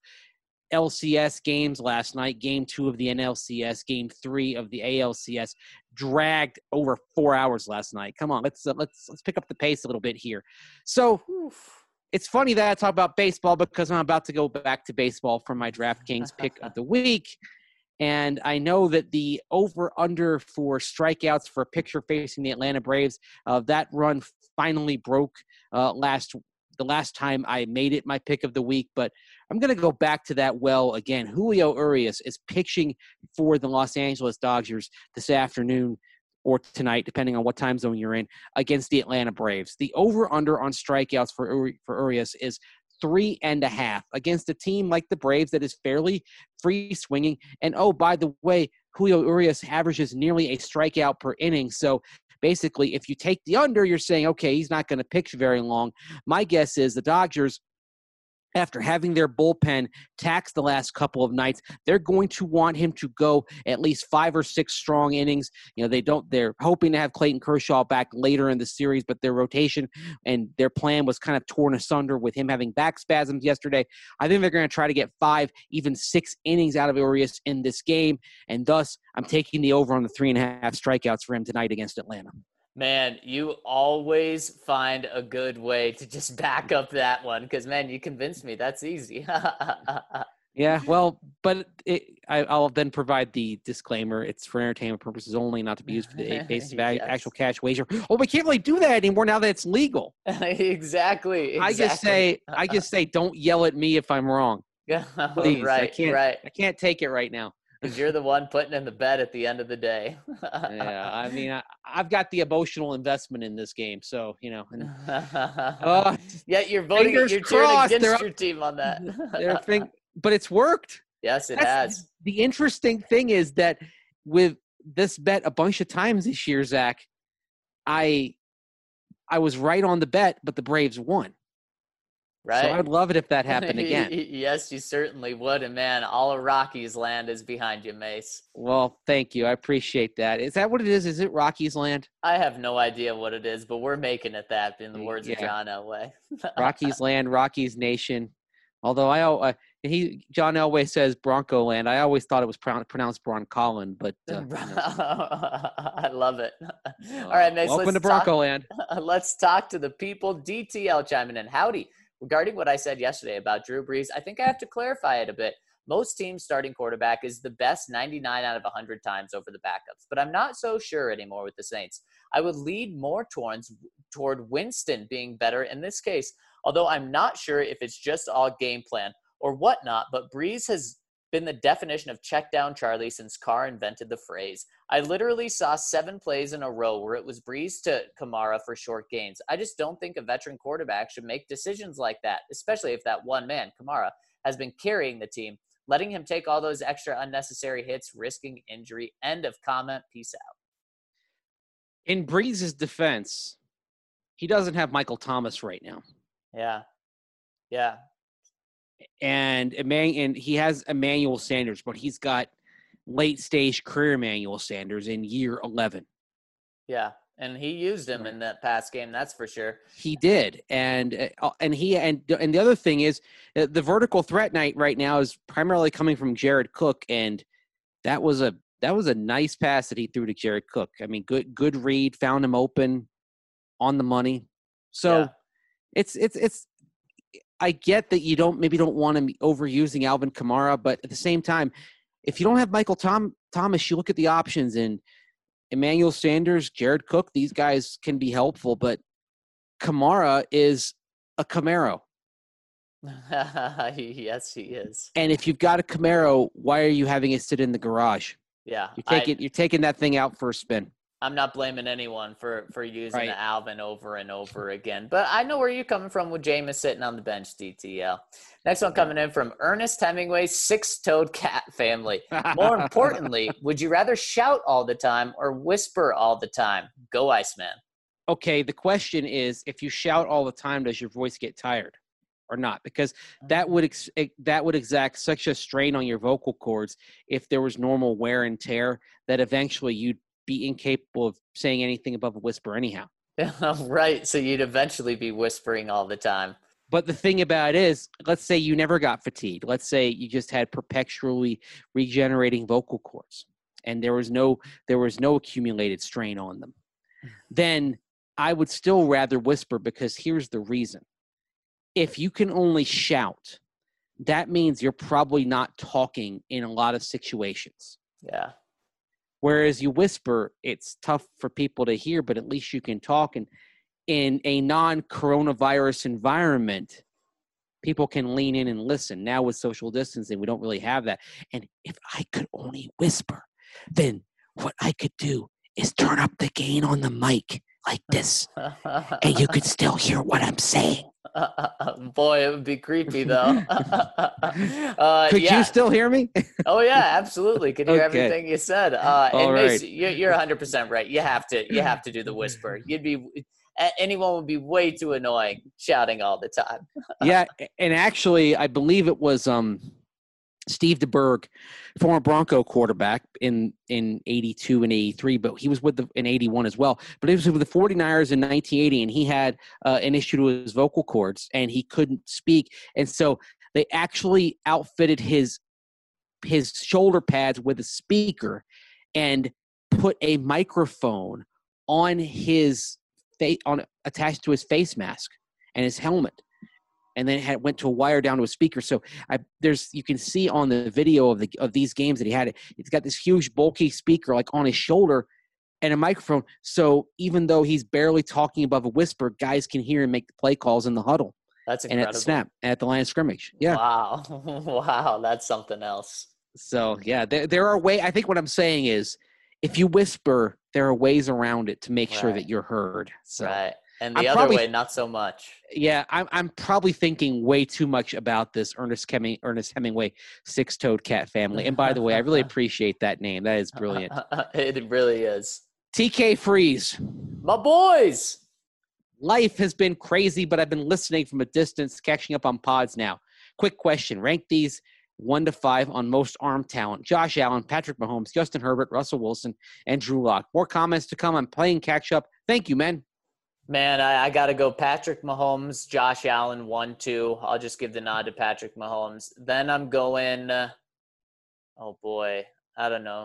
L C S games last night, Game Two of the N L C S, Game Three of the A L C S, dragged over four hours last night. Come on, let's uh, let's let's pick up the pace a little bit here. So. Oof. It's funny that I talk about baseball because I'm about to go back to baseball for my DraftKings pick of the week. And I know that the over-under for strikeouts for a pitcher facing the Atlanta Braves, uh, that run finally broke uh, last the last time I made it my pick of the week. But I'm going to go back to that well again. Julio Urias is pitching for the Los Angeles Dodgers this afternoon or tonight, depending on what time zone you're in, against the Atlanta Braves. The over-under on strikeouts for Uri- for Urias is three and a half against a team like the Braves that is fairly free swinging. And, oh, by the way, Julio Urias averages nearly a strikeout per inning. So basically, if you take the under, you're saying, okay, he's not going to pitch very long. My guess is the Dodgers, after having their bullpen taxed the last couple of nights, they're going to want him to go at least five or six strong innings. You know, they don't, they're hoping to have Clayton Kershaw back later in the series, but their rotation and their plan was kind of torn asunder with him having back spasms yesterday. I think they're going to try to get five, even six innings out of Urias in this game. And thus I'm taking the over on the three and a half strikeouts for him tonight against Atlanta. Man, you always find a good way to just back up that one because, man, you convinced me. That's easy. Yeah, well, but it, I, I'll then provide the disclaimer. It's for entertainment purposes only, not to be used for the basis of yes. actual cash wager. Oh, we can't really do that anymore now that it's legal. exactly, exactly. I just say, I just say, don't yell at me if I'm wrong. Please, right, I can't, right. I can't take it right now. Because you're the one putting in the bet at the end of the day. Yeah, I mean, I, I've got the emotional investment in this game, so you know. And, uh, yeah, you're voting. You're cheering against your team on that. thing, but it's worked. Yes, it That's, has. The interesting thing is that with this bet a bunch of times this year, Zach, I I was right on the bet, but the Braves won. Right. So I'd love it if that happened again. Yes, you certainly would. And man, all of Rockies land is behind you, Mace. Well, thank you. I appreciate that. Is that what it is? Is it Rockies land? I have no idea what it is, but we're making it that, in the words Yeah. of John Elway. Rockies land, Rockies nation. Although I, uh, he John Elway says Bronco land. I always thought it was pro- pronounced Broncolin, but uh, you know. I love it. All right, Mace. Welcome let's to Bronco talk, land. Let's talk to the people. D T L chiming in. Howdy. Regarding what I said yesterday about Drew Brees, I think I have to clarify it a bit. Most teams' starting quarterback is the best ninety-nine out of one hundred times over the backups, but I'm not so sure anymore with the Saints. I would lead more towards, toward Winston being better in this case, although I'm not sure if it's just all game plan or whatnot, but Brees has been the definition of check down Charlie since Carr invented the phrase. I literally saw seven plays in a row where it was Brees to Kamara for short gains. I just don't think a veteran quarterback should make decisions like that, especially if that one man, Kamara, has been carrying the team, letting him take all those extra unnecessary hits, risking injury. End of comment. Peace out. In Brees' defense, he doesn't have Michael Thomas right now. Yeah. Yeah. And and he has Emmanuel Sanders, but he's got late stage career Emmanuel Sanders in year eleven. Yeah, and he used him Right. in that past game, that's for sure. He did, and uh, and he and and the other thing is uh, the vertical threat night right now is primarily coming from Jared Cook, and that was a that was a nice pass that he threw to Jared Cook. I mean, good good read, found him open, on the money. So Yeah. it's it's it's. I get that you don't maybe don't want to be overusing Alvin Kamara, but at the same time, if you don't have Michael Tom, Thomas, you look at the options, and Emmanuel Sanders, Jared Cook, these guys can be helpful, but Kamara is a Camaro. Yes, he is. And if you've got a Camaro, why are you having it sit in the garage? Yeah. You're taking I, you're taking that thing out for a spin. I'm not blaming anyone for, for using Right. Alvin over and over again, but I know where you're coming from with Jameis sitting on the bench, D T L. Next one coming in from Ernest Hemingway, six-toed cat family. More importantly, would you rather shout all the time or whisper all the time? Go Iceman. Okay, the question is, if you shout all the time, does your voice get tired or not? Because that would ex- that would exact such a strain on your vocal cords if there was normal wear and tear that eventually you'd be incapable of saying anything above a whisper anyhow. Right, so you'd eventually be whispering all the time. But the thing about it is, let's say you never got fatigued. Let's say you just had perpetually regenerating vocal cords and there was no there was no accumulated strain on them. Then I would still rather whisper, because here's the reason. If you can only shout, that means you're probably not talking in a lot of situations. Yeah. Whereas you whisper, it's tough for people to hear, but at least you can talk. And in a non-coronavirus environment, people can lean in and listen. Now with social distancing, we don't really have that. And if I could only whisper, then what I could do is turn up the gain on the mic like this, and you could still hear what I'm saying. Boy, it would be creepy, though. uh, Could yeah. you still hear me? Oh, yeah, absolutely. Could hear Okay. everything you said. Uh, All and Mace, right. you're, you're one hundred percent right. You have to you have to do the whisper. You'd be – anyone would be way too annoying shouting all the time. Yeah, and actually, I believe it was um, Steve DeBerg, former Bronco quarterback in in eighty-two and eighty-three, but he was with the in eighty-one as well. But he was with the forty-niners in nineteen eighty, and he had uh, an issue to his vocal cords, and he couldn't speak. And so they actually outfitted his his shoulder pads with a speaker and put a microphone on his face, on attached to his face mask and his helmet. And then it had, went to a wire down to a speaker. So I, there's you can see on the video of the of these games that he had it. It's got this huge bulky speaker like on his shoulder and a microphone. So even though he's barely talking above a whisper, guys can hear him make the play calls in the huddle. That's and incredible. at the snap and at the line of scrimmage. Yeah. Wow. Wow. That's something else. So yeah, there there are ways. I think what I'm saying is, if you whisper, there are ways around it to make sure Right. that you're heard. So. Right. And the I'm other probably, way, not so much. Yeah, I'm I'm probably thinking way too much about this Ernest Heming, Ernest Hemingway six-toed cat family. And by the way, I really appreciate that name. That is brilliant. It really is. T K Freeze. My boys. Life has been crazy, but I've been listening from a distance, catching up on pods now. Quick question. Rank these one to five on most arm talent. Josh Allen, Patrick Mahomes, Justin Herbert, Russell Wilson, and Drew Lock. More comments to come. I'm playing catch up. Thank you, man. Man, I, I got to go Patrick Mahomes, Josh Allen, one, two. I'll just give the nod to Patrick Mahomes. Then I'm going, uh, oh, boy, I don't know.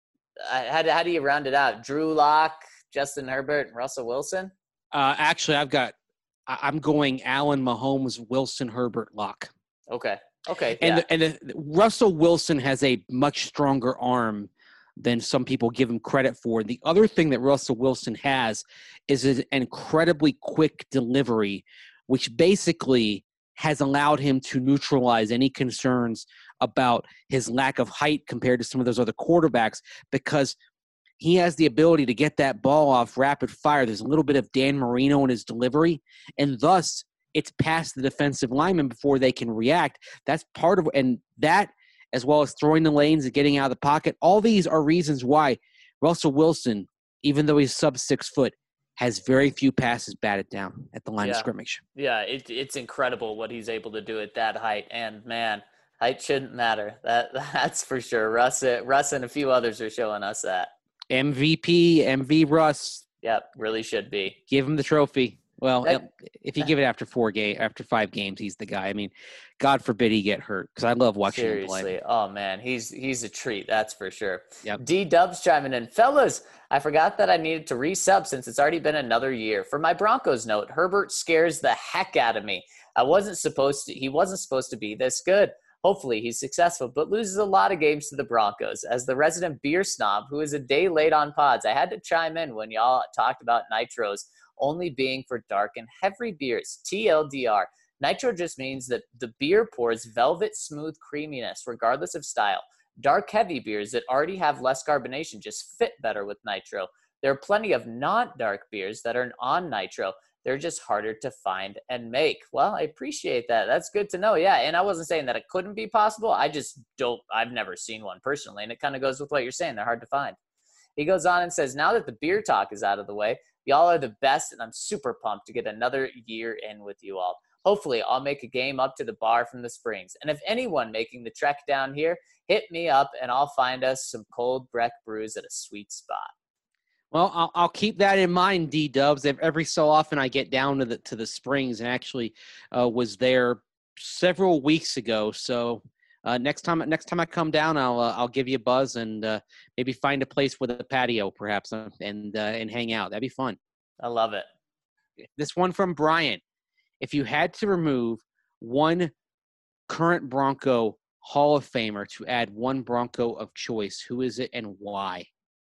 I, how, how do you round it out? Drew Lock, Justin Herbert, and Russell Wilson? Uh, actually, I've got – I'm going Allen, Mahomes, Wilson, Herbert, Lock. Okay, okay, And, yeah. the, and the, Russell Wilson has a much stronger arm than some people give him credit for. The other thing that Russell Wilson has is an incredibly quick delivery, which basically has allowed him to neutralize any concerns about his lack of height compared to some of those other quarterbacks, because he has the ability to get that ball off rapid fire. There's a little bit of Dan Marino in his delivery, and thus it's past the defensive lineman before they can react. That's part of – and that – as well as throwing the lanes and getting out of the pocket. All these are reasons why Russell Wilson, even though he's sub six foot, has very few passes batted down at the line yeah. of scrimmage. Yeah, it, it's incredible what he's able to do at that height. And, man, height shouldn't matter. That That's for sure. Russ, Russ and a few others are showing us that. M V P, M V Russ. Yep, really should be. Give him the trophy. Well, That, if you give it after four game, after five games, he's the guy. I mean, God forbid he get hurt, because I love watching seriously. him play. Oh, man, he's he's a treat, that's for sure. Yep. D-Dubs chiming in. Fellas, I forgot that I needed to resub since it's already been another year. For my Broncos note, Herbert scares the heck out of me. I wasn't supposed to – he wasn't supposed to be this good. Hopefully he's successful, but loses a lot of games to the Broncos. As the resident beer snob who is a day late on pods, I had to chime in when y'all talked about nitros only being for dark and heavy beers. T L D R. Nitro just means that the beer pours velvet smooth creaminess regardless of style. Dark heavy beers that already have less carbonation just fit better with nitro. There are plenty of not-dark beers that are on nitro. They're just harder to find and make. Well, I appreciate that. That's good to know. Yeah, and I wasn't saying that it couldn't be possible. I just don't – I've never seen one personally, and it kind of goes with what you're saying. They're hard to find. He goes on and says, now that the beer talk is out of the way, y'all are the best, and I'm super pumped to get another year in with you all. Hopefully, I'll make a game up to the bar from the Springs. And if anyone making the trek down here, hit me up, and I'll find us some cold Breck brews at a sweet spot. Well, I'll, I'll keep that in mind, D-Dubs. Every so often I get down to the to the Springs, and actually uh, was there several weeks ago. So uh, next time next time I come down, I'll uh, I'll give you a buzz and uh, maybe find a place with a patio, perhaps, uh, and uh, and hang out. That'd be fun. I love it. This one from Brian. If you had to remove one current Bronco Hall of Famer to add one Bronco of choice, who is it and why?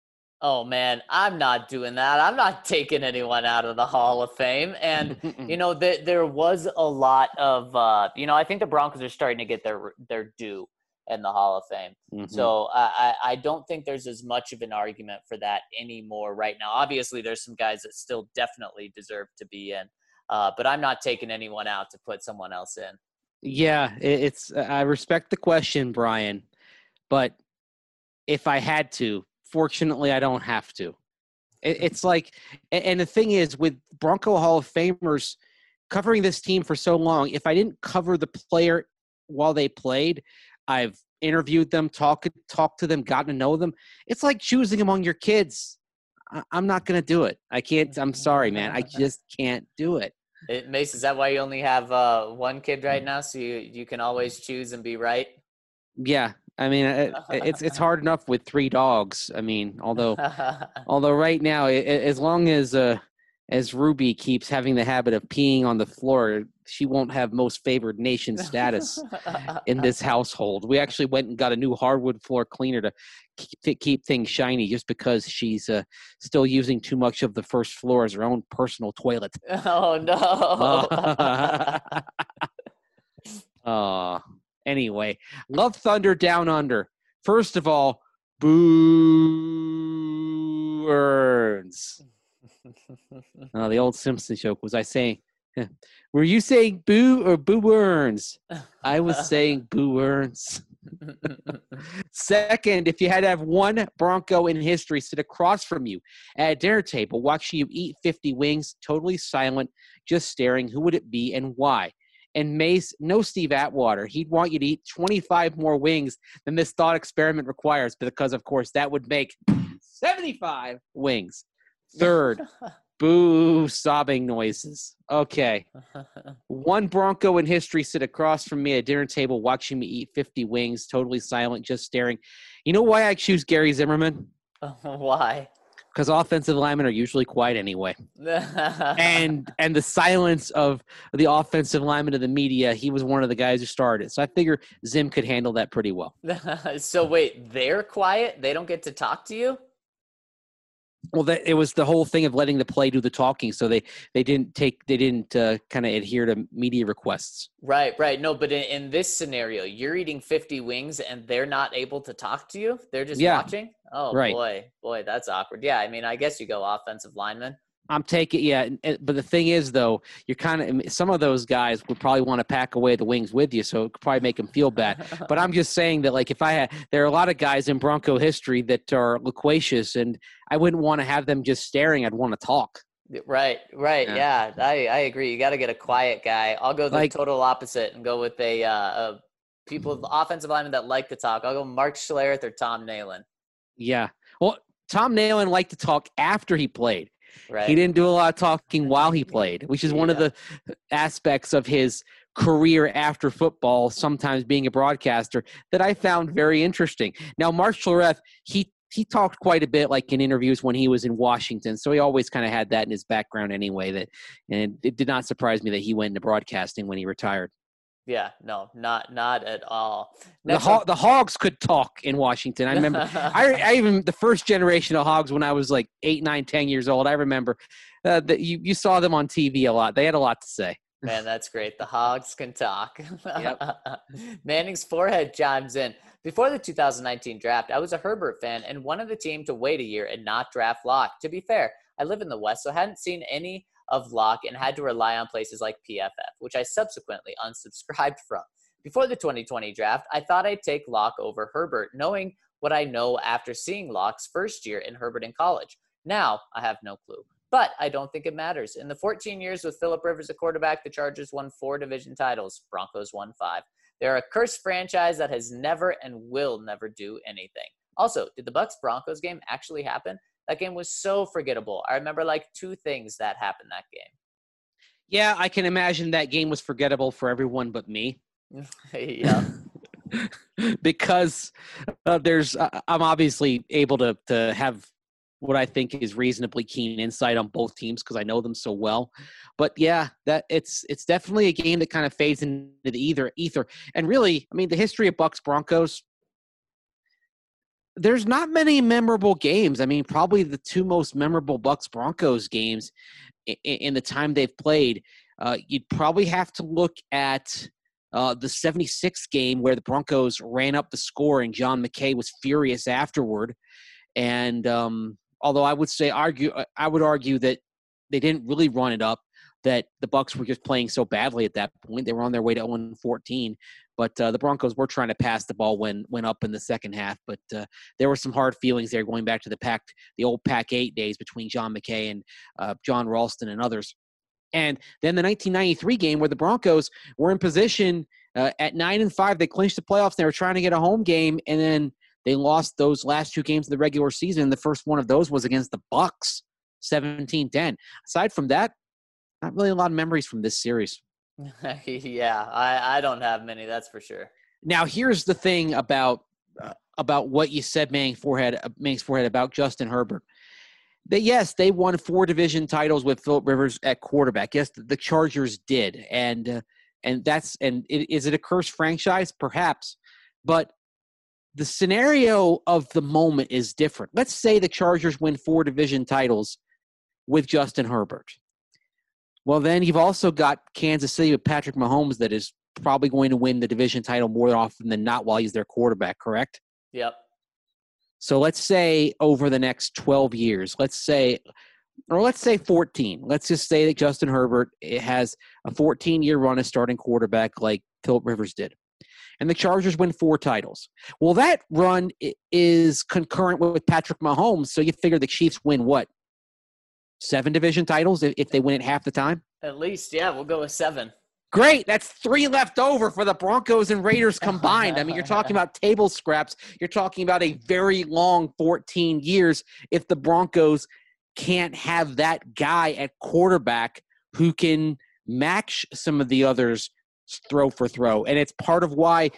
Oh, man, I'm not doing that. I'm not taking anyone out of the Hall of Fame. And, you know, th- there was a lot of, uh, you know, I think the Broncos are starting to get their their due in the Hall of Fame. Mm-hmm. So I, I don't think there's as much of an argument for that anymore right now. Obviously, there's some guys that still definitely deserve to be in. Uh, but I'm not taking anyone out to put someone else in. Yeah, it's. I respect the question, Brian. But if I had to, fortunately, I don't have to. It's like, and the thing is, with Bronco Hall of Famers covering this team for so long, if I didn't cover the player while they played, I've interviewed them, talked talked to them, gotten to know them. It's like choosing among your kids. I'm not going to do it. I can't. I'm sorry, man. I just can't do it. It, Mace, is that why you only have uh, one kid right now, so you, you can always choose and be right? Yeah. I mean, it, it's it's hard enough with three dogs. I mean, although although right now, it, as long as uh, as Ruby keeps having the habit of peeing on the floor, she won't have most favored nation status in this household. We actually went and got a new hardwood floor cleaner to keep, keep things shiny, just because she's uh, still using too much of the first floor as her own personal toilet. Oh no! uh, Anyway, Love Thunder Down Under. First of all, boo earns. Uh, the old Simpsons joke. Was I saying, were you saying boo or boo earns? I was saying boo earns. Second, if you had to have one Bronco in history sit across from you at a dinner table watching you eat fifty wings, totally silent, just staring, who would it be and why? And Mace, no Steve Atwater. He'd want you to eat twenty-five more wings than this thought experiment requires because, of course, that would make seventy-five wings. Third, boo sobbing noises. Okay. One Bronco in history sit across from me at a dinner table watching me eat fifty wings, totally silent, just staring. You know why I choose Gary Zimmerman? Why? Because offensive linemen are usually quiet anyway. and and the silence of the offensive lineman of the media, he was one of the guys who started. So I figure Zim could handle that pretty well. So wait, they're quiet? They don't get to talk to you? Well, that, it was the whole thing of letting the play do the talking, so they, they didn't take they didn't uh, kind of adhere to media requests. Right, right. No, but in, in this scenario, you're eating fifty wings and they're not able to talk to you. They're just yeah. watching. Oh right. boy, boy, that's awkward. Yeah, I mean, I guess you go offensive lineman. I'm taking yeah, but the thing is though, you're kind of some of those guys would probably want to pack away the wings with you, so it could probably make them feel bad. But I'm just saying that like if I had, there are a lot of guys in Bronco history that are loquacious, and I wouldn't want to have them just staring. I'd want to talk. Right, right, yeah, yeah I I agree. You got to get a quiet guy. I'll go the like, total opposite and go with a, uh, a people offensive linemen that like to talk. I'll go Mark Schlereth or Tom Nalen. Yeah, well, Tom Nalen liked to talk after he played. Right. He didn't do a lot of talking while he played, which is one yeah. of the aspects of his career after football, sometimes being a broadcaster, that I found very interesting. Now, Mark Schlereth, he he talked quite a bit, like in interviews when he was in Washington, so he always kind of had that in his background anyway. That, and it did not surprise me that he went into broadcasting when he retired. Yeah, no, not not at all. The, Ho- the Hogs could talk in Washington. I remember, I, I even the first generation of Hogs when I was like eight, nine, ten years old. I remember uh, that you you saw them on T V a lot. They had a lot to say. Man, that's great. The Hogs can talk. Yep. Manning's forehead chimes in. Before the two thousand nineteen draft, I was a Herbert fan and wanted the team to wait a year and not draft Locke. To be fair, I live in the West, so I hadn't seen any of Locke and had to rely on places like P F F, which I subsequently unsubscribed from. Before the twenty twenty draft, I thought I'd take Locke over Herbert, knowing what I know after seeing Locke's first year in Herbert in college. Now, I have no clue. But I don't think it matters. In the fourteen years with Phillip Rivers at quarterback, the Chargers won four division titles. Broncos won five. They're a cursed franchise that has never and will never do anything. Also, did the Bucs-Broncos game actually happen? That game was so forgettable. I remember like two things that happened that game. Yeah, I can imagine that game was forgettable for everyone but me. Yeah. Because uh, there's, uh, I'm obviously able to to have what I think is reasonably keen insight on both teams because I know them so well. But yeah, that it's it's definitely a game that kind of fades into the either ether. And really, I mean, the history of Bucs Broncos, there's not many memorable games. I mean, probably the two most memorable Bucs Broncos games in, in the time they've played, uh, you'd probably have to look at uh, the seventy-six game where the Broncos ran up the score and John McKay was furious afterward. And um, although I would say argue, I would argue that they didn't really run it up, that the Bucs were just playing so badly at that point. They were on their way to oh and fourteen. But uh, the Broncos were trying to pass the ball when went up in the second half. But uh, there were some hard feelings there going back to the Pac, the old Pac eight days between John McKay and uh, John Ralston and others. And then the nineteen ninety-three game where the Broncos were in position uh, at nine and five. They clinched the playoffs. They were trying to get a home game, and then they lost those last two games of the regular season. The first one of those was against the Bucs, seventeen ten. Aside from that, not really a lot of memories from this series. Yeah, I, I don't have many, that's for sure. Now, here's the thing about uh, about what you said, Manning Forehead, uh, Manning's Forehead, about Justin Herbert. That, yes, they won four division titles with Phillip Rivers at quarterback. Yes, the Chargers did. And uh, and that's and it, is it a cursed franchise? Perhaps. But the scenario of the moment is different. Let's say the Chargers win four division titles with Justin Herbert. Well, then you've also got Kansas City with Patrick Mahomes that is probably going to win the division title more often than not while he's their quarterback, correct? Yep. So let's say over the next twelve years, let's say or let's say fourteen. Let's just say that Justin Herbert it has a fourteen-year run as starting quarterback like Philip Rivers did. And the Chargers win four titles. Well, that run is concurrent with Patrick Mahomes, so you figure the Chiefs win what? Seven division titles if they win it half the time? At least, yeah, we'll go with seven. Great. That's three left over for the Broncos and Raiders combined. I mean, you're talking about table scraps. You're talking about a very long fourteen years if the Broncos can't have that guy at quarterback who can match some of the others throw for throw. And it's part of why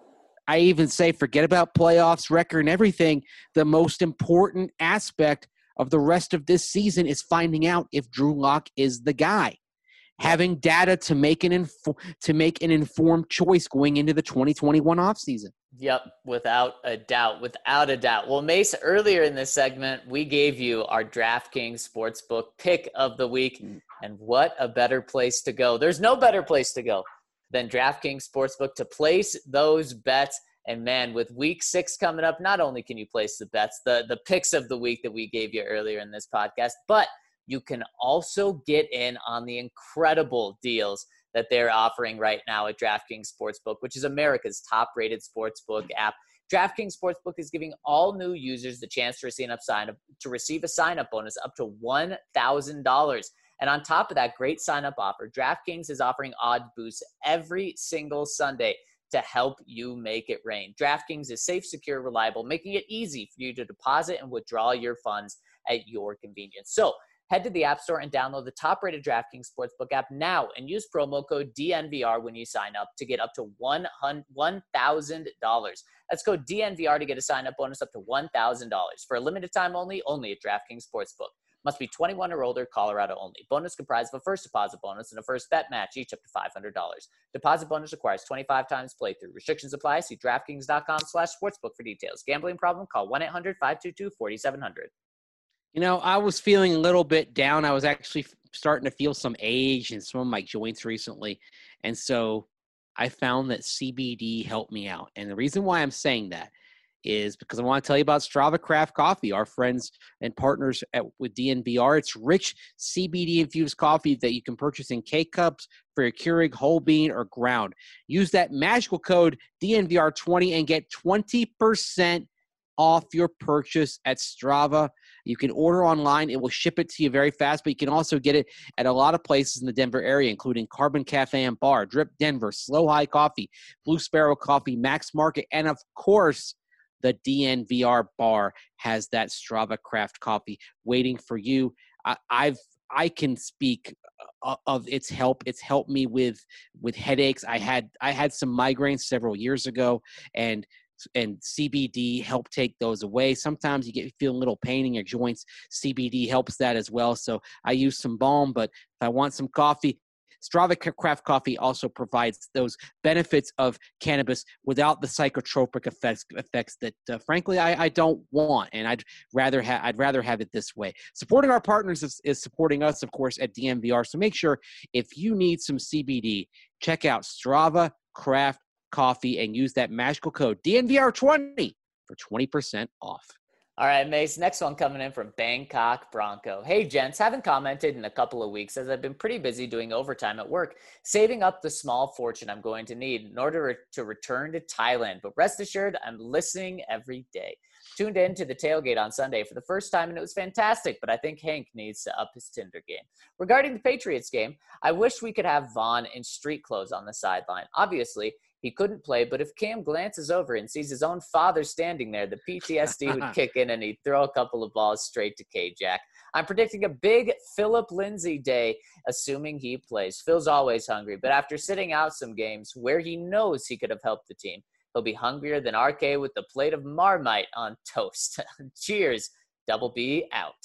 I even say forget about playoffs, record, and everything. The most important aspect of the rest of this season is finding out if Drew Lock is the guy. Having data to make an info- to make an informed choice going into the twenty twenty-one offseason. Yep, without a doubt, without a doubt. Well, Mace, earlier in this segment, we gave you our DraftKings Sportsbook pick of the week, and what a better place to go. There's no better place to go than DraftKings Sportsbook to place those bets. And, man, with week six coming up, not only can you place the bets, the, the picks of the week that we gave you earlier in this podcast, but you can also get in on the incredible deals that they're offering right now at DraftKings Sportsbook, which is America's top-rated sportsbook app. DraftKings Sportsbook is giving all new users the chance to receive, sign up, to receive a sign-up bonus up to one thousand dollars. And on top of that great sign-up offer, DraftKings is offering odd boosts every single Sunday to help you make it rain. DraftKings is safe, secure, reliable, making it easy for you to deposit and withdraw your funds at your convenience. So head to the App Store and download the top-rated DraftKings Sportsbook app now and use promo code D N V R when you sign up to get up to one thousand dollars. Let's go D N V R to get a sign-up bonus up to one thousand dollars. For a limited time only, only at DraftKings Sportsbook. Must be twenty-one or older, Colorado only. Bonus comprised of a first deposit bonus and a first bet match, each up to five hundred dollars. Deposit bonus requires twenty-five times playthrough. Restrictions apply. See DraftKings.com slash sportsbook for details. Gambling problem? Call one eight hundred five two two four seven zero zero. You know, I was feeling a little bit down. I was actually starting to feel some age in some of my joints recently. And so I found that C B D helped me out. And the reason why I'm saying that is because I want to tell you about Strava Craft Coffee, our friends and partners at, with D N V R. It's rich C B D-infused coffee that you can purchase in K-Cups for your Keurig, whole bean, or ground. Use that magical code D N V R twenty and get twenty percent off your purchase at Strava. You can order online. It will ship it to you very fast, but you can also get it at a lot of places in the Denver area, including Carbon Cafe and Bar, Drip Denver, Slow High Coffee, Blue Sparrow Coffee, Max Market, and of course, the D N V R bar has that Strava Craft coffee waiting for you. I, I've I can speak of its help. It's helped me with with headaches. I had I had some migraines several years ago, and and C B D helped take those away. Sometimes you get feel a little pain in your joints. C B D helps that as well. So I use some balm, but if I want some coffee, Strava Craft Coffee also provides those benefits of cannabis without the psychotropic effects effects that, uh, frankly, I, I don't want, and I'd rather have I'd rather have it this way. Supporting our partners is, is supporting us, of course, at D N V R. So make sure if you need some C B D, check out Strava Craft Coffee and use that magical code D N V R twenty for twenty percent off. All right, Mace, next one coming in from Bangkok Bronco. Hey, gents, haven't commented in a couple of weeks as I've been pretty busy doing overtime at work, saving up the small fortune I'm going to need in order to return to Thailand. But rest assured, I'm listening every day. Tuned in to the tailgate on Sunday for the first time, and it was fantastic, but I think Hank needs to up his Tinder game. Regarding the Patriots game, I wish we could have Vaughn in street clothes on the sideline. Obviously, he couldn't play, but if Cam glances over and sees his own father standing there, the P T S D would kick in and he'd throw a couple of balls straight to K-Jack. I'm predicting a big Philip Lindsay day, assuming he plays. Phil's always hungry, but after sitting out some games where he knows he could have helped the team, he'll be hungrier than R K with the plate of Marmite on toast. Cheers. Double B out.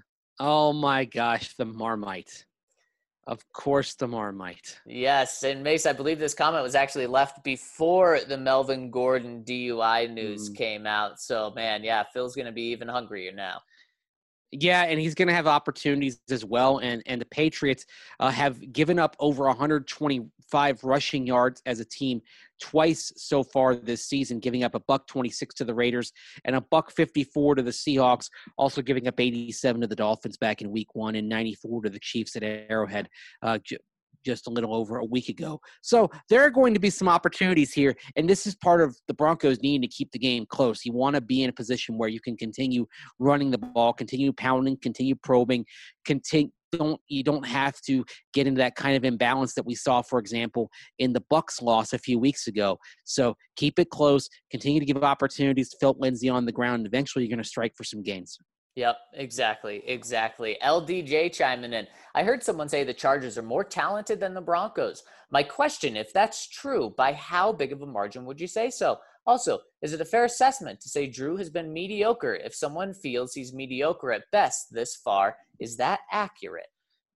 Oh, my gosh, the Marmite. Of course, the Marmite. Yes, and Mace, I believe this comment was actually left before the Melvin Gordon D U I news mm. came out. So, man, yeah, Phil's going to be even hungrier now. Yeah, and he's going to have opportunities as well. And and the Patriots uh, have given up over one hundred twenty-five rushing yards as a team twice so far this season, giving up a buck twenty-six to the Raiders and a buck fifty-four to the Seahawks, also giving up eighty-seven to the Dolphins back in week one and ninety-four to the Chiefs at Arrowhead uh, j- just a little over a week ago. So there are going to be some opportunities here, and this is part of the Broncos needing to keep the game close. You want to be in a position where you can continue running the ball, continue pounding, continue probing, continue. Don't you don't have to get into that kind of imbalance that we saw, for example, in the Bucs loss a few weeks ago. So keep it close, continue to give opportunities to Philip Lindsay on the ground, and eventually you're going to strike for some gains. Yep, exactly, exactly. L D J chiming in. I heard someone say the Chargers are more talented than the Broncos. My question, if that's true, by how big of a margin would you say so? Also, is it a fair assessment to say Drew has been mediocre? If someone feels he's mediocre at best this far, is that accurate?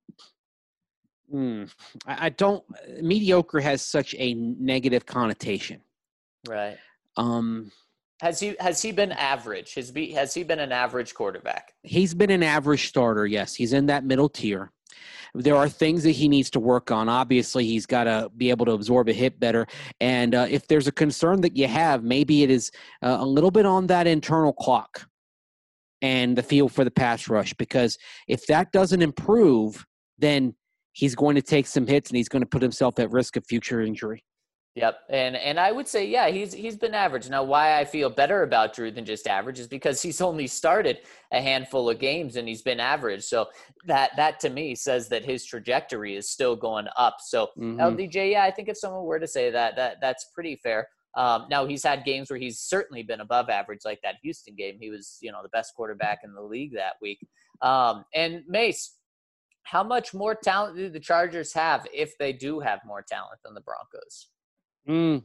Hmm. I, I don't – mediocre has such a negative connotation. Right. Um. Has he has he been average? Has be has he been an average quarterback? He's been an average starter, yes. He's in that middle tier. There are things that he needs to work on. Obviously, he's got to be able to absorb a hit better. And uh, if there's a concern that you have, maybe it is uh, a little bit on that internal clock and the feel for the pass rush. Because if that doesn't improve, then he's going to take some hits and he's going to put himself at risk of future injury. Yep, and and I would say, yeah, he's he's been average. Now, why I feel better about Drew than just average is because he's only started a handful of games and he's been average. So that that to me says that his trajectory is still going up. So mm-hmm. L D J, yeah, I think if someone were to say that, that that's pretty fair. Um, now he's had games where he's certainly been above average, like that Houston game. He was, you know, the best quarterback in the league that week. Um, and Mace, how much more talent do the Chargers have if they do have more talent than the Broncos? Mm.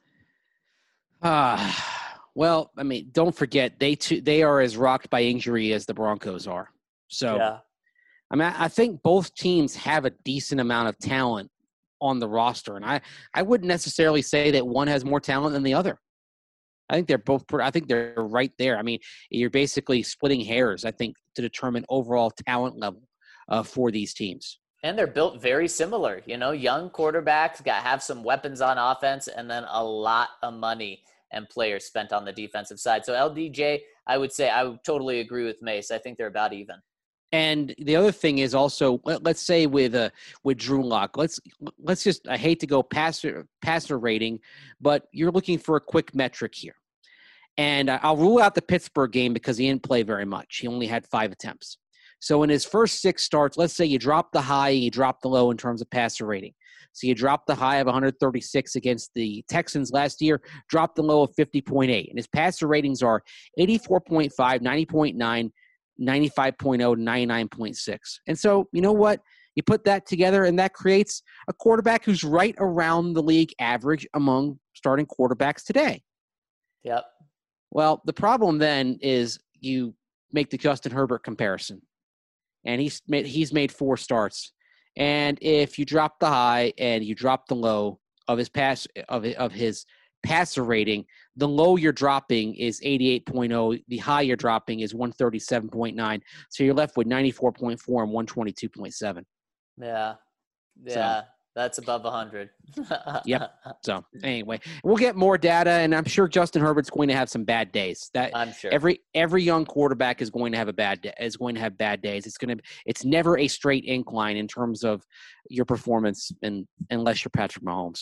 Ah, well, I mean, don't forget they too, they are as rocked by injury as the Broncos are. So, yeah. I mean, I think both teams have a decent amount of talent on the roster, and I, I wouldn't necessarily say that one has more talent than the other. I think they're both. I think they're right there. I mean, you're basically splitting hairs, I think, to determine overall talent level uh, for these teams. And they're built very similar, you know, young quarterbacks, got have some weapons on offense, and then a lot of money and players spent on the defensive side. So L D J, I would say I would totally agree with Mace. I think they're about even. And the other thing is also, let, let's say with uh, with Drew Lock, let's let's just, I hate to go passer passer rating, but you're looking for a quick metric here. And I'll rule out the Pittsburgh game because he didn't play very much. He only had five attempts. So in his first six starts, let's say you drop the high and you drop the low in terms of passer rating. So you drop the high of one hundred thirty-six against the Texans last year, drop the low of fifty point eight. And his passer ratings are eighty-four point five, ninety point nine, ninety-five point oh, ninety-nine point six. And so, you know what? You put that together and that creates a quarterback who's right around the league average among starting quarterbacks today. Yep. Well, the problem then is you make the Justin Herbert comparison. And he's made, he's made four starts. And if you drop the high and you drop the low of his pass of of his passer rating, the low you're dropping is eighty-eight point oh. The high you're dropping is one thirty-seven point nine. So you're left with ninety-four point four and one twenty-two point seven. Yeah. Yeah. So, that's above one hundred. Yep. So anyway, we'll get more data, and I'm sure Justin Herbert's going to have some bad days. That I'm sure every every young quarterback is going to have a bad day, is going to have bad days. It's going to it's never a straight incline in terms of your performance, and unless you're Patrick Mahomes.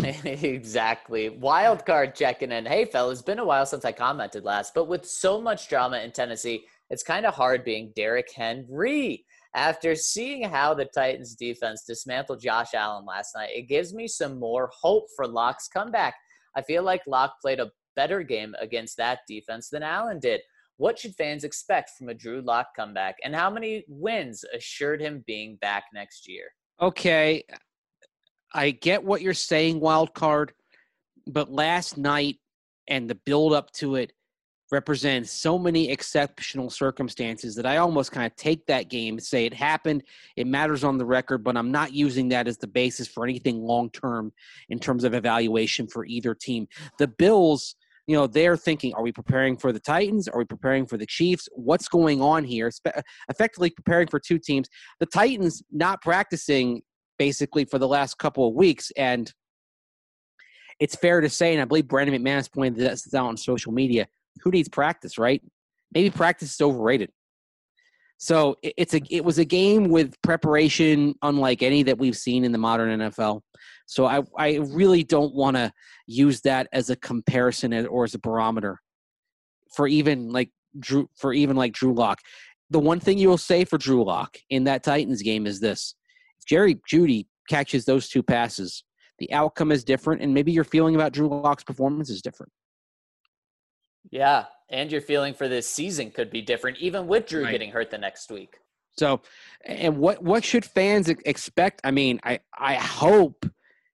Exactly. Wild card checking in. Hey, fellas, it's been a while since I commented last, but with so much drama in Tennessee, it's kind of hard being Derrick Henry. After seeing how the Titans defense dismantled Josh Allen last night, it gives me some more hope for Lock's comeback. I feel like Lock played a better game against that defense than Allen did. What should fans expect from a Drew Lock comeback, and how many wins assured him being back next year? Okay, I get what you're saying, wild card, but last night and the build up to it represents so many exceptional circumstances that I almost kind of take that game and say it happened, it matters on the record, but I'm not using that as the basis for anything long-term in terms of evaluation for either team. The Bills you know, they're thinking, are we preparing for the Titans? Are we preparing for the Chiefs? What's going on here? Spe- effectively preparing for two teams. The Titans not practicing basically for the last couple of weeks. And it's fair to say, and I believe Brandon McManus pointed this out on social media, who needs practice, right? Maybe practice is overrated. So it, it's a it was a game with preparation unlike any that we've seen in the modern N F L. So I, I really don't want to use that as a comparison or as a barometer for even like Drew for even like Drew Lock. The one thing you will say for Drew Lock in that Titans game is this: if Jerry Jeudy catches those two passes, the outcome is different, and maybe your feeling about Drew Lock's performance is different. Yeah, and your feeling for this season could be different, even with Drew Right. getting hurt the next week. So, and what what should fans expect? I mean, I I hope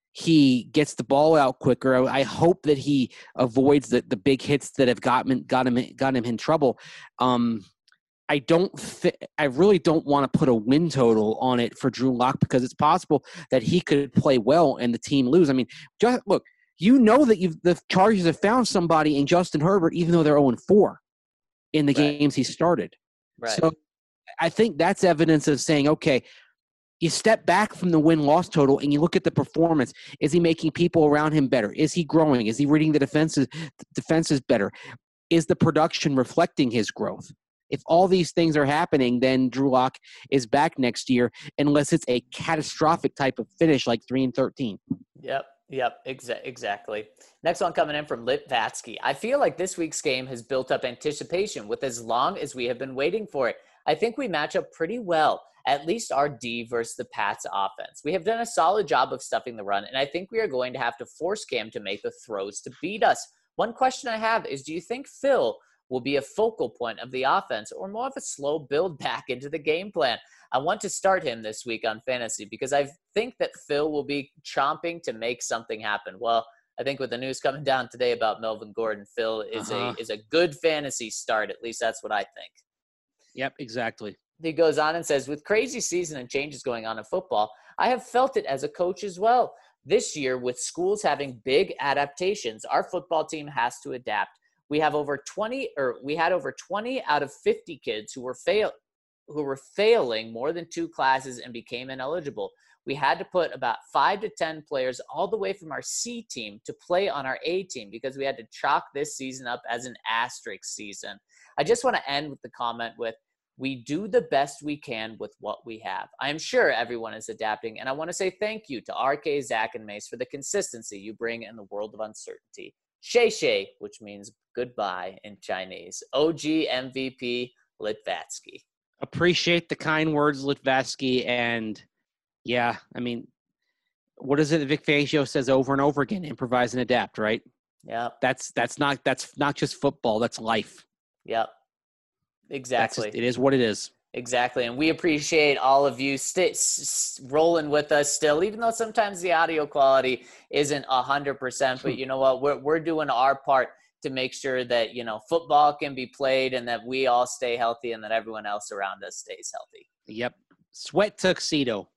he gets the ball out quicker. I hope that he avoids the, the big hits that have got him got him got him in trouble. Um, I don't. Th- I really don't want to put a win total on it for Drew Lock because it's possible that he could play well and the team lose. I mean, just look. You know that you've, the Chargers have found somebody in Justin Herbert, even though they're oh and four in the Right. games he started. Right. So I think that's evidence of saying, okay, you step back from the win-loss total and you look at the performance. Is he making people around him better? Is he growing? Is he reading the defenses, defenses better? Is the production reflecting his growth? If all these things are happening, then Drew Lock is back next year, unless it's a catastrophic type of finish like three and thirteen. Yep. Yep, exa- exactly. Next one coming in from Litvatsky. I feel like this week's game has built up anticipation with as long as we have been waiting for it. I think we match up pretty well, at least our D versus the Pats offense. We have done a solid job of stuffing the run, and I think we are going to have to force Cam to make the throws to beat us. One question I have is, do you think Phil will be a focal point of the offense or more of a slow build back into the game plan? I want to start him this week on fantasy because I think that Phil will be chomping to make something happen. Well, I think with the news coming down today about Melvin Gordon, Phil is Uh-huh. a is a good fantasy start. At least that's what I think. Yep, exactly. He goes on and says, with crazy season and changes going on in football, I have felt it as a coach as well. This year, with schools having big adaptations, our football team has to adapt. We have over twenty, or we had over twenty out of fifty kids who were fail, who were failing more than two classes and became ineligible. We had to put about five to ten players all the way from our C team to play on our A team because we had to chalk this season up as an asterisk season. I just want to end with the comment with, we do the best we can with what we have. I am sure everyone is adapting, and I want to say thank you to R K, Zach, and Mace for the consistency you bring in the world of uncertainty. Shay Shay, which means goodbye in Chinese. O G M V P Litvatsky. Appreciate the kind words, Litvatsky, and yeah, I mean, what is it that Vic Fangio says over and over again? Improvise and adapt, right? Yeah. That's that's not that's not just football. That's life. Yep. That's Exactly. just, it is what it is. Exactly. And we appreciate all of you st- s- rolling with us still, even though sometimes the audio quality isn't one hundred percent. But you know what? We're, we're doing our part to make sure that, you know, football can be played and that we all stay healthy and that everyone else around us stays healthy. Yep. Sweat tuxedo.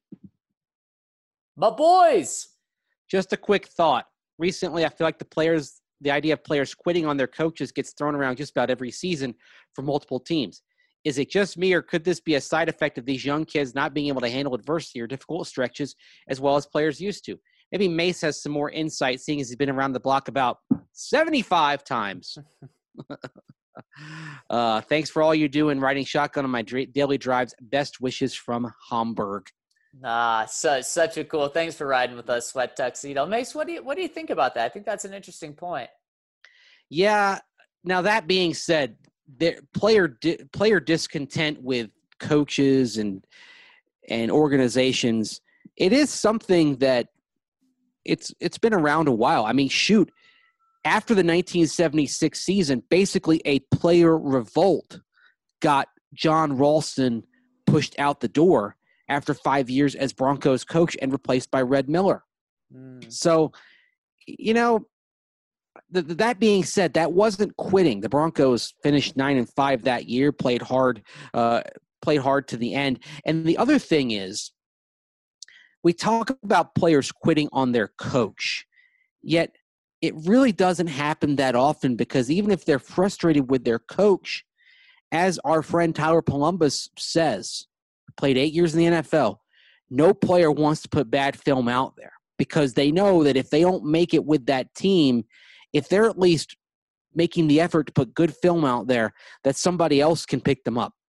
My boys. Just a quick thought. Recently, I feel like the players, the idea of players quitting on their coaches gets thrown around just about every season for multiple teams. Is it just me, or could this be a side effect of these young kids not being able to handle adversity or difficult stretches as well as players used to? Maybe Mace has some more insight, seeing as he's been around the block about seventy-five times. uh, thanks for all you do in riding shotgun on my dra- daily drives. Best wishes from Hamburg. Ah, so, such a cool. Thanks for riding with us, Sweat Tuxedo. Mace, what do you what do you think about that? I think that's an interesting point. Yeah. Now that being said, there player di- player discontent with coaches and and organizations, it is something that it's it's been around a while. I mean, shoot, after the nineteen seventy-six season, basically a player revolt got John Ralston pushed out the door after five years as Broncos coach and replaced by Red Miller. Mm. So, you know, th- that being said, that wasn't quitting. The Broncos finished nine and five that year, played hard, uh, played hard to the end. And the other thing is, we talk about players quitting on their coach, yet it really doesn't happen that often, because even if they're frustrated with their coach, as our friend Tyler Columbus says, played eight years in the N F L, no player wants to put bad film out there, because they know that if they don't make it with that team, if they're at least making the effort to put good film out there, that somebody else can pick them up.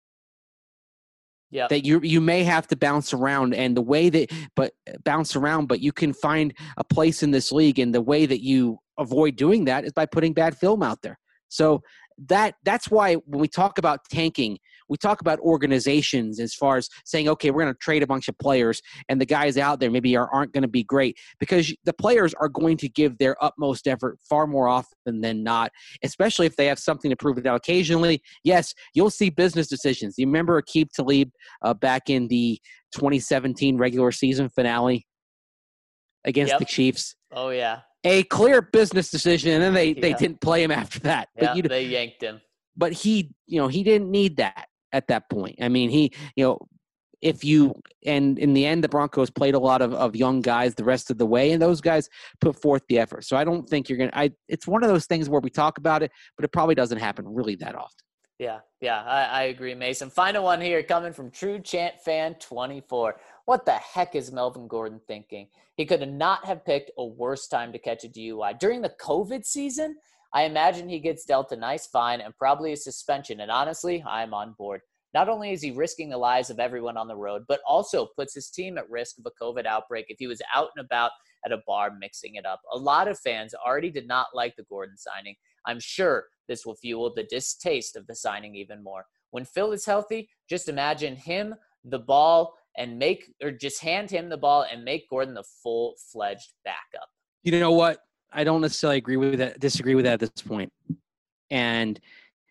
Yeah, that you you may have to bounce around, and the way that but bounce around, but you can find a place in this league, and the way that you avoid doing that is by putting bad film out there. So that that's why when we talk about tanking, we talk about organizations as far as saying, okay, we're going to trade a bunch of players, and the guys out there maybe are, aren't going to be great, because the players are going to give their utmost effort far more often than not, especially if they have something to prove. Now, occasionally, yes, you'll see business decisions. You remember Aqib Talib uh, back in the twenty seventeen regular season finale against yep. the Chiefs? Oh, yeah. A clear business decision, and then they, yeah. they didn't play him after that. Yeah, but you, they yanked him. But he, you know, he didn't need that at that point. I mean, he, you know, if you, and in the end, the Broncos played a lot of, of young guys the rest of the way, and those guys put forth the effort. So I don't think you're going to, I, it's one of those things where we talk about it, but it probably doesn't happen really that often. Yeah, yeah, I, I agree, Mason. Final one here coming from True Chant Fan twenty-four. What the heck is Melvin Gordon thinking? He could not have picked a worse time to catch a D U I. During the COVID season, I imagine he gets dealt a nice fine and probably a suspension. And honestly, I'm on board. Not only is he risking the lives of everyone on the road, but also puts his team at risk of a COVID outbreak if he was out and about at a bar mixing it up. A lot of fans already did not like the Gordon signing. I'm sure this will fuel the distaste of the signing even more. When Phil is healthy, just imagine him, the ball, and make, or just hand him the ball and make Gordon the full-fledged backup. You know what? I don't necessarily agree with that, disagree with that at this point. And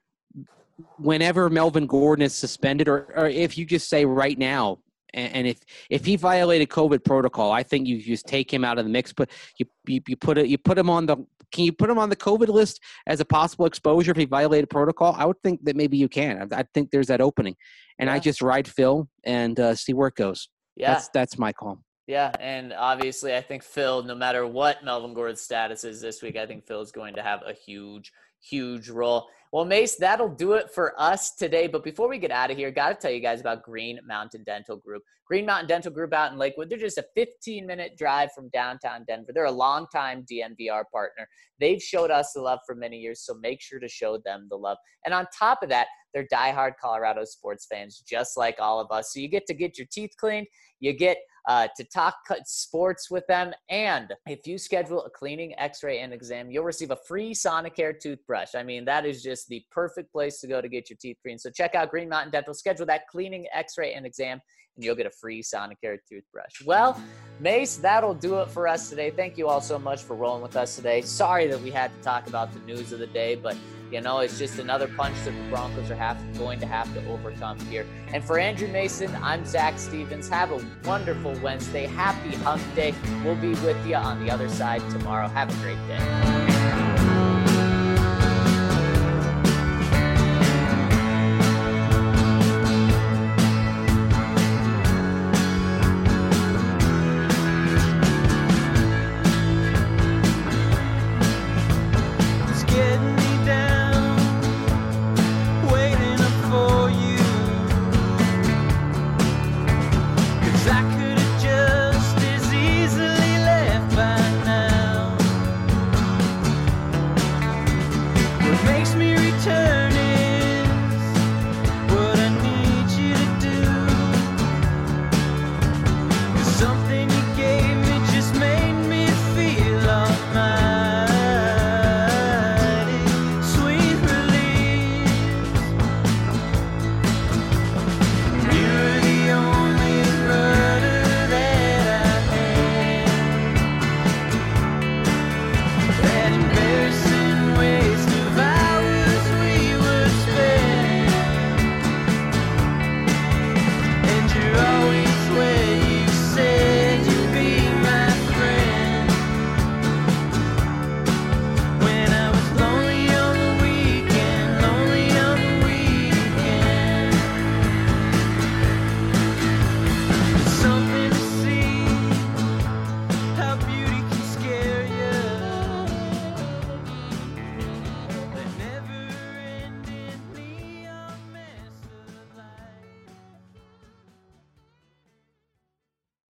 whenever Melvin Gordon is suspended, or, or if you just say right now, and, and if if he violated COVID protocol, I think you just take him out of the mix. But you you, you put it you put him on the can you put him on the COVID list as a possible exposure if he violated protocol? I would think that maybe you can. I, I think there's that opening, and yeah. I just ride Phil and uh, see where it goes. Yeah, that's that's my call. Yeah, and obviously I think Phil, no matter what Melvin Gordon's status is this week, I think Phil is going to have a huge, huge role. Well, Mace, that'll do it for us today. But before we get out of here, got to tell you guys about Green Mountain Dental Group. Green Mountain Dental Group out in Lakewood. They're just a fifteen-minute drive from downtown Denver. They're a longtime D N V R partner. They've showed us the love for many years, so make sure to show them the love. And on top of that, they're diehard Colorado sports fans, just like all of us. So you get to get your teeth cleaned. You get uh, to talk sports with them. And if you schedule a cleaning, x-ray, and exam, you'll receive a free Sonicare toothbrush. I mean, that is just the perfect place to go to get your teeth cleaned. So check out Green Mountain Dental. Schedule that cleaning, x-ray, and exam, and you'll get a free Sonicare toothbrush. Well, Mace, that'll do it for us today. Thank you all so much for rolling with us today. Sorry that we had to talk about the news of the day, but you know, it's just another punch that the Broncos are have, going to have to overcome here. And for Andrew Mason, I'm Zach Stevens. Have a wonderful Wednesday. Happy Hump Day. We'll be with you on the other side tomorrow. Have a great day.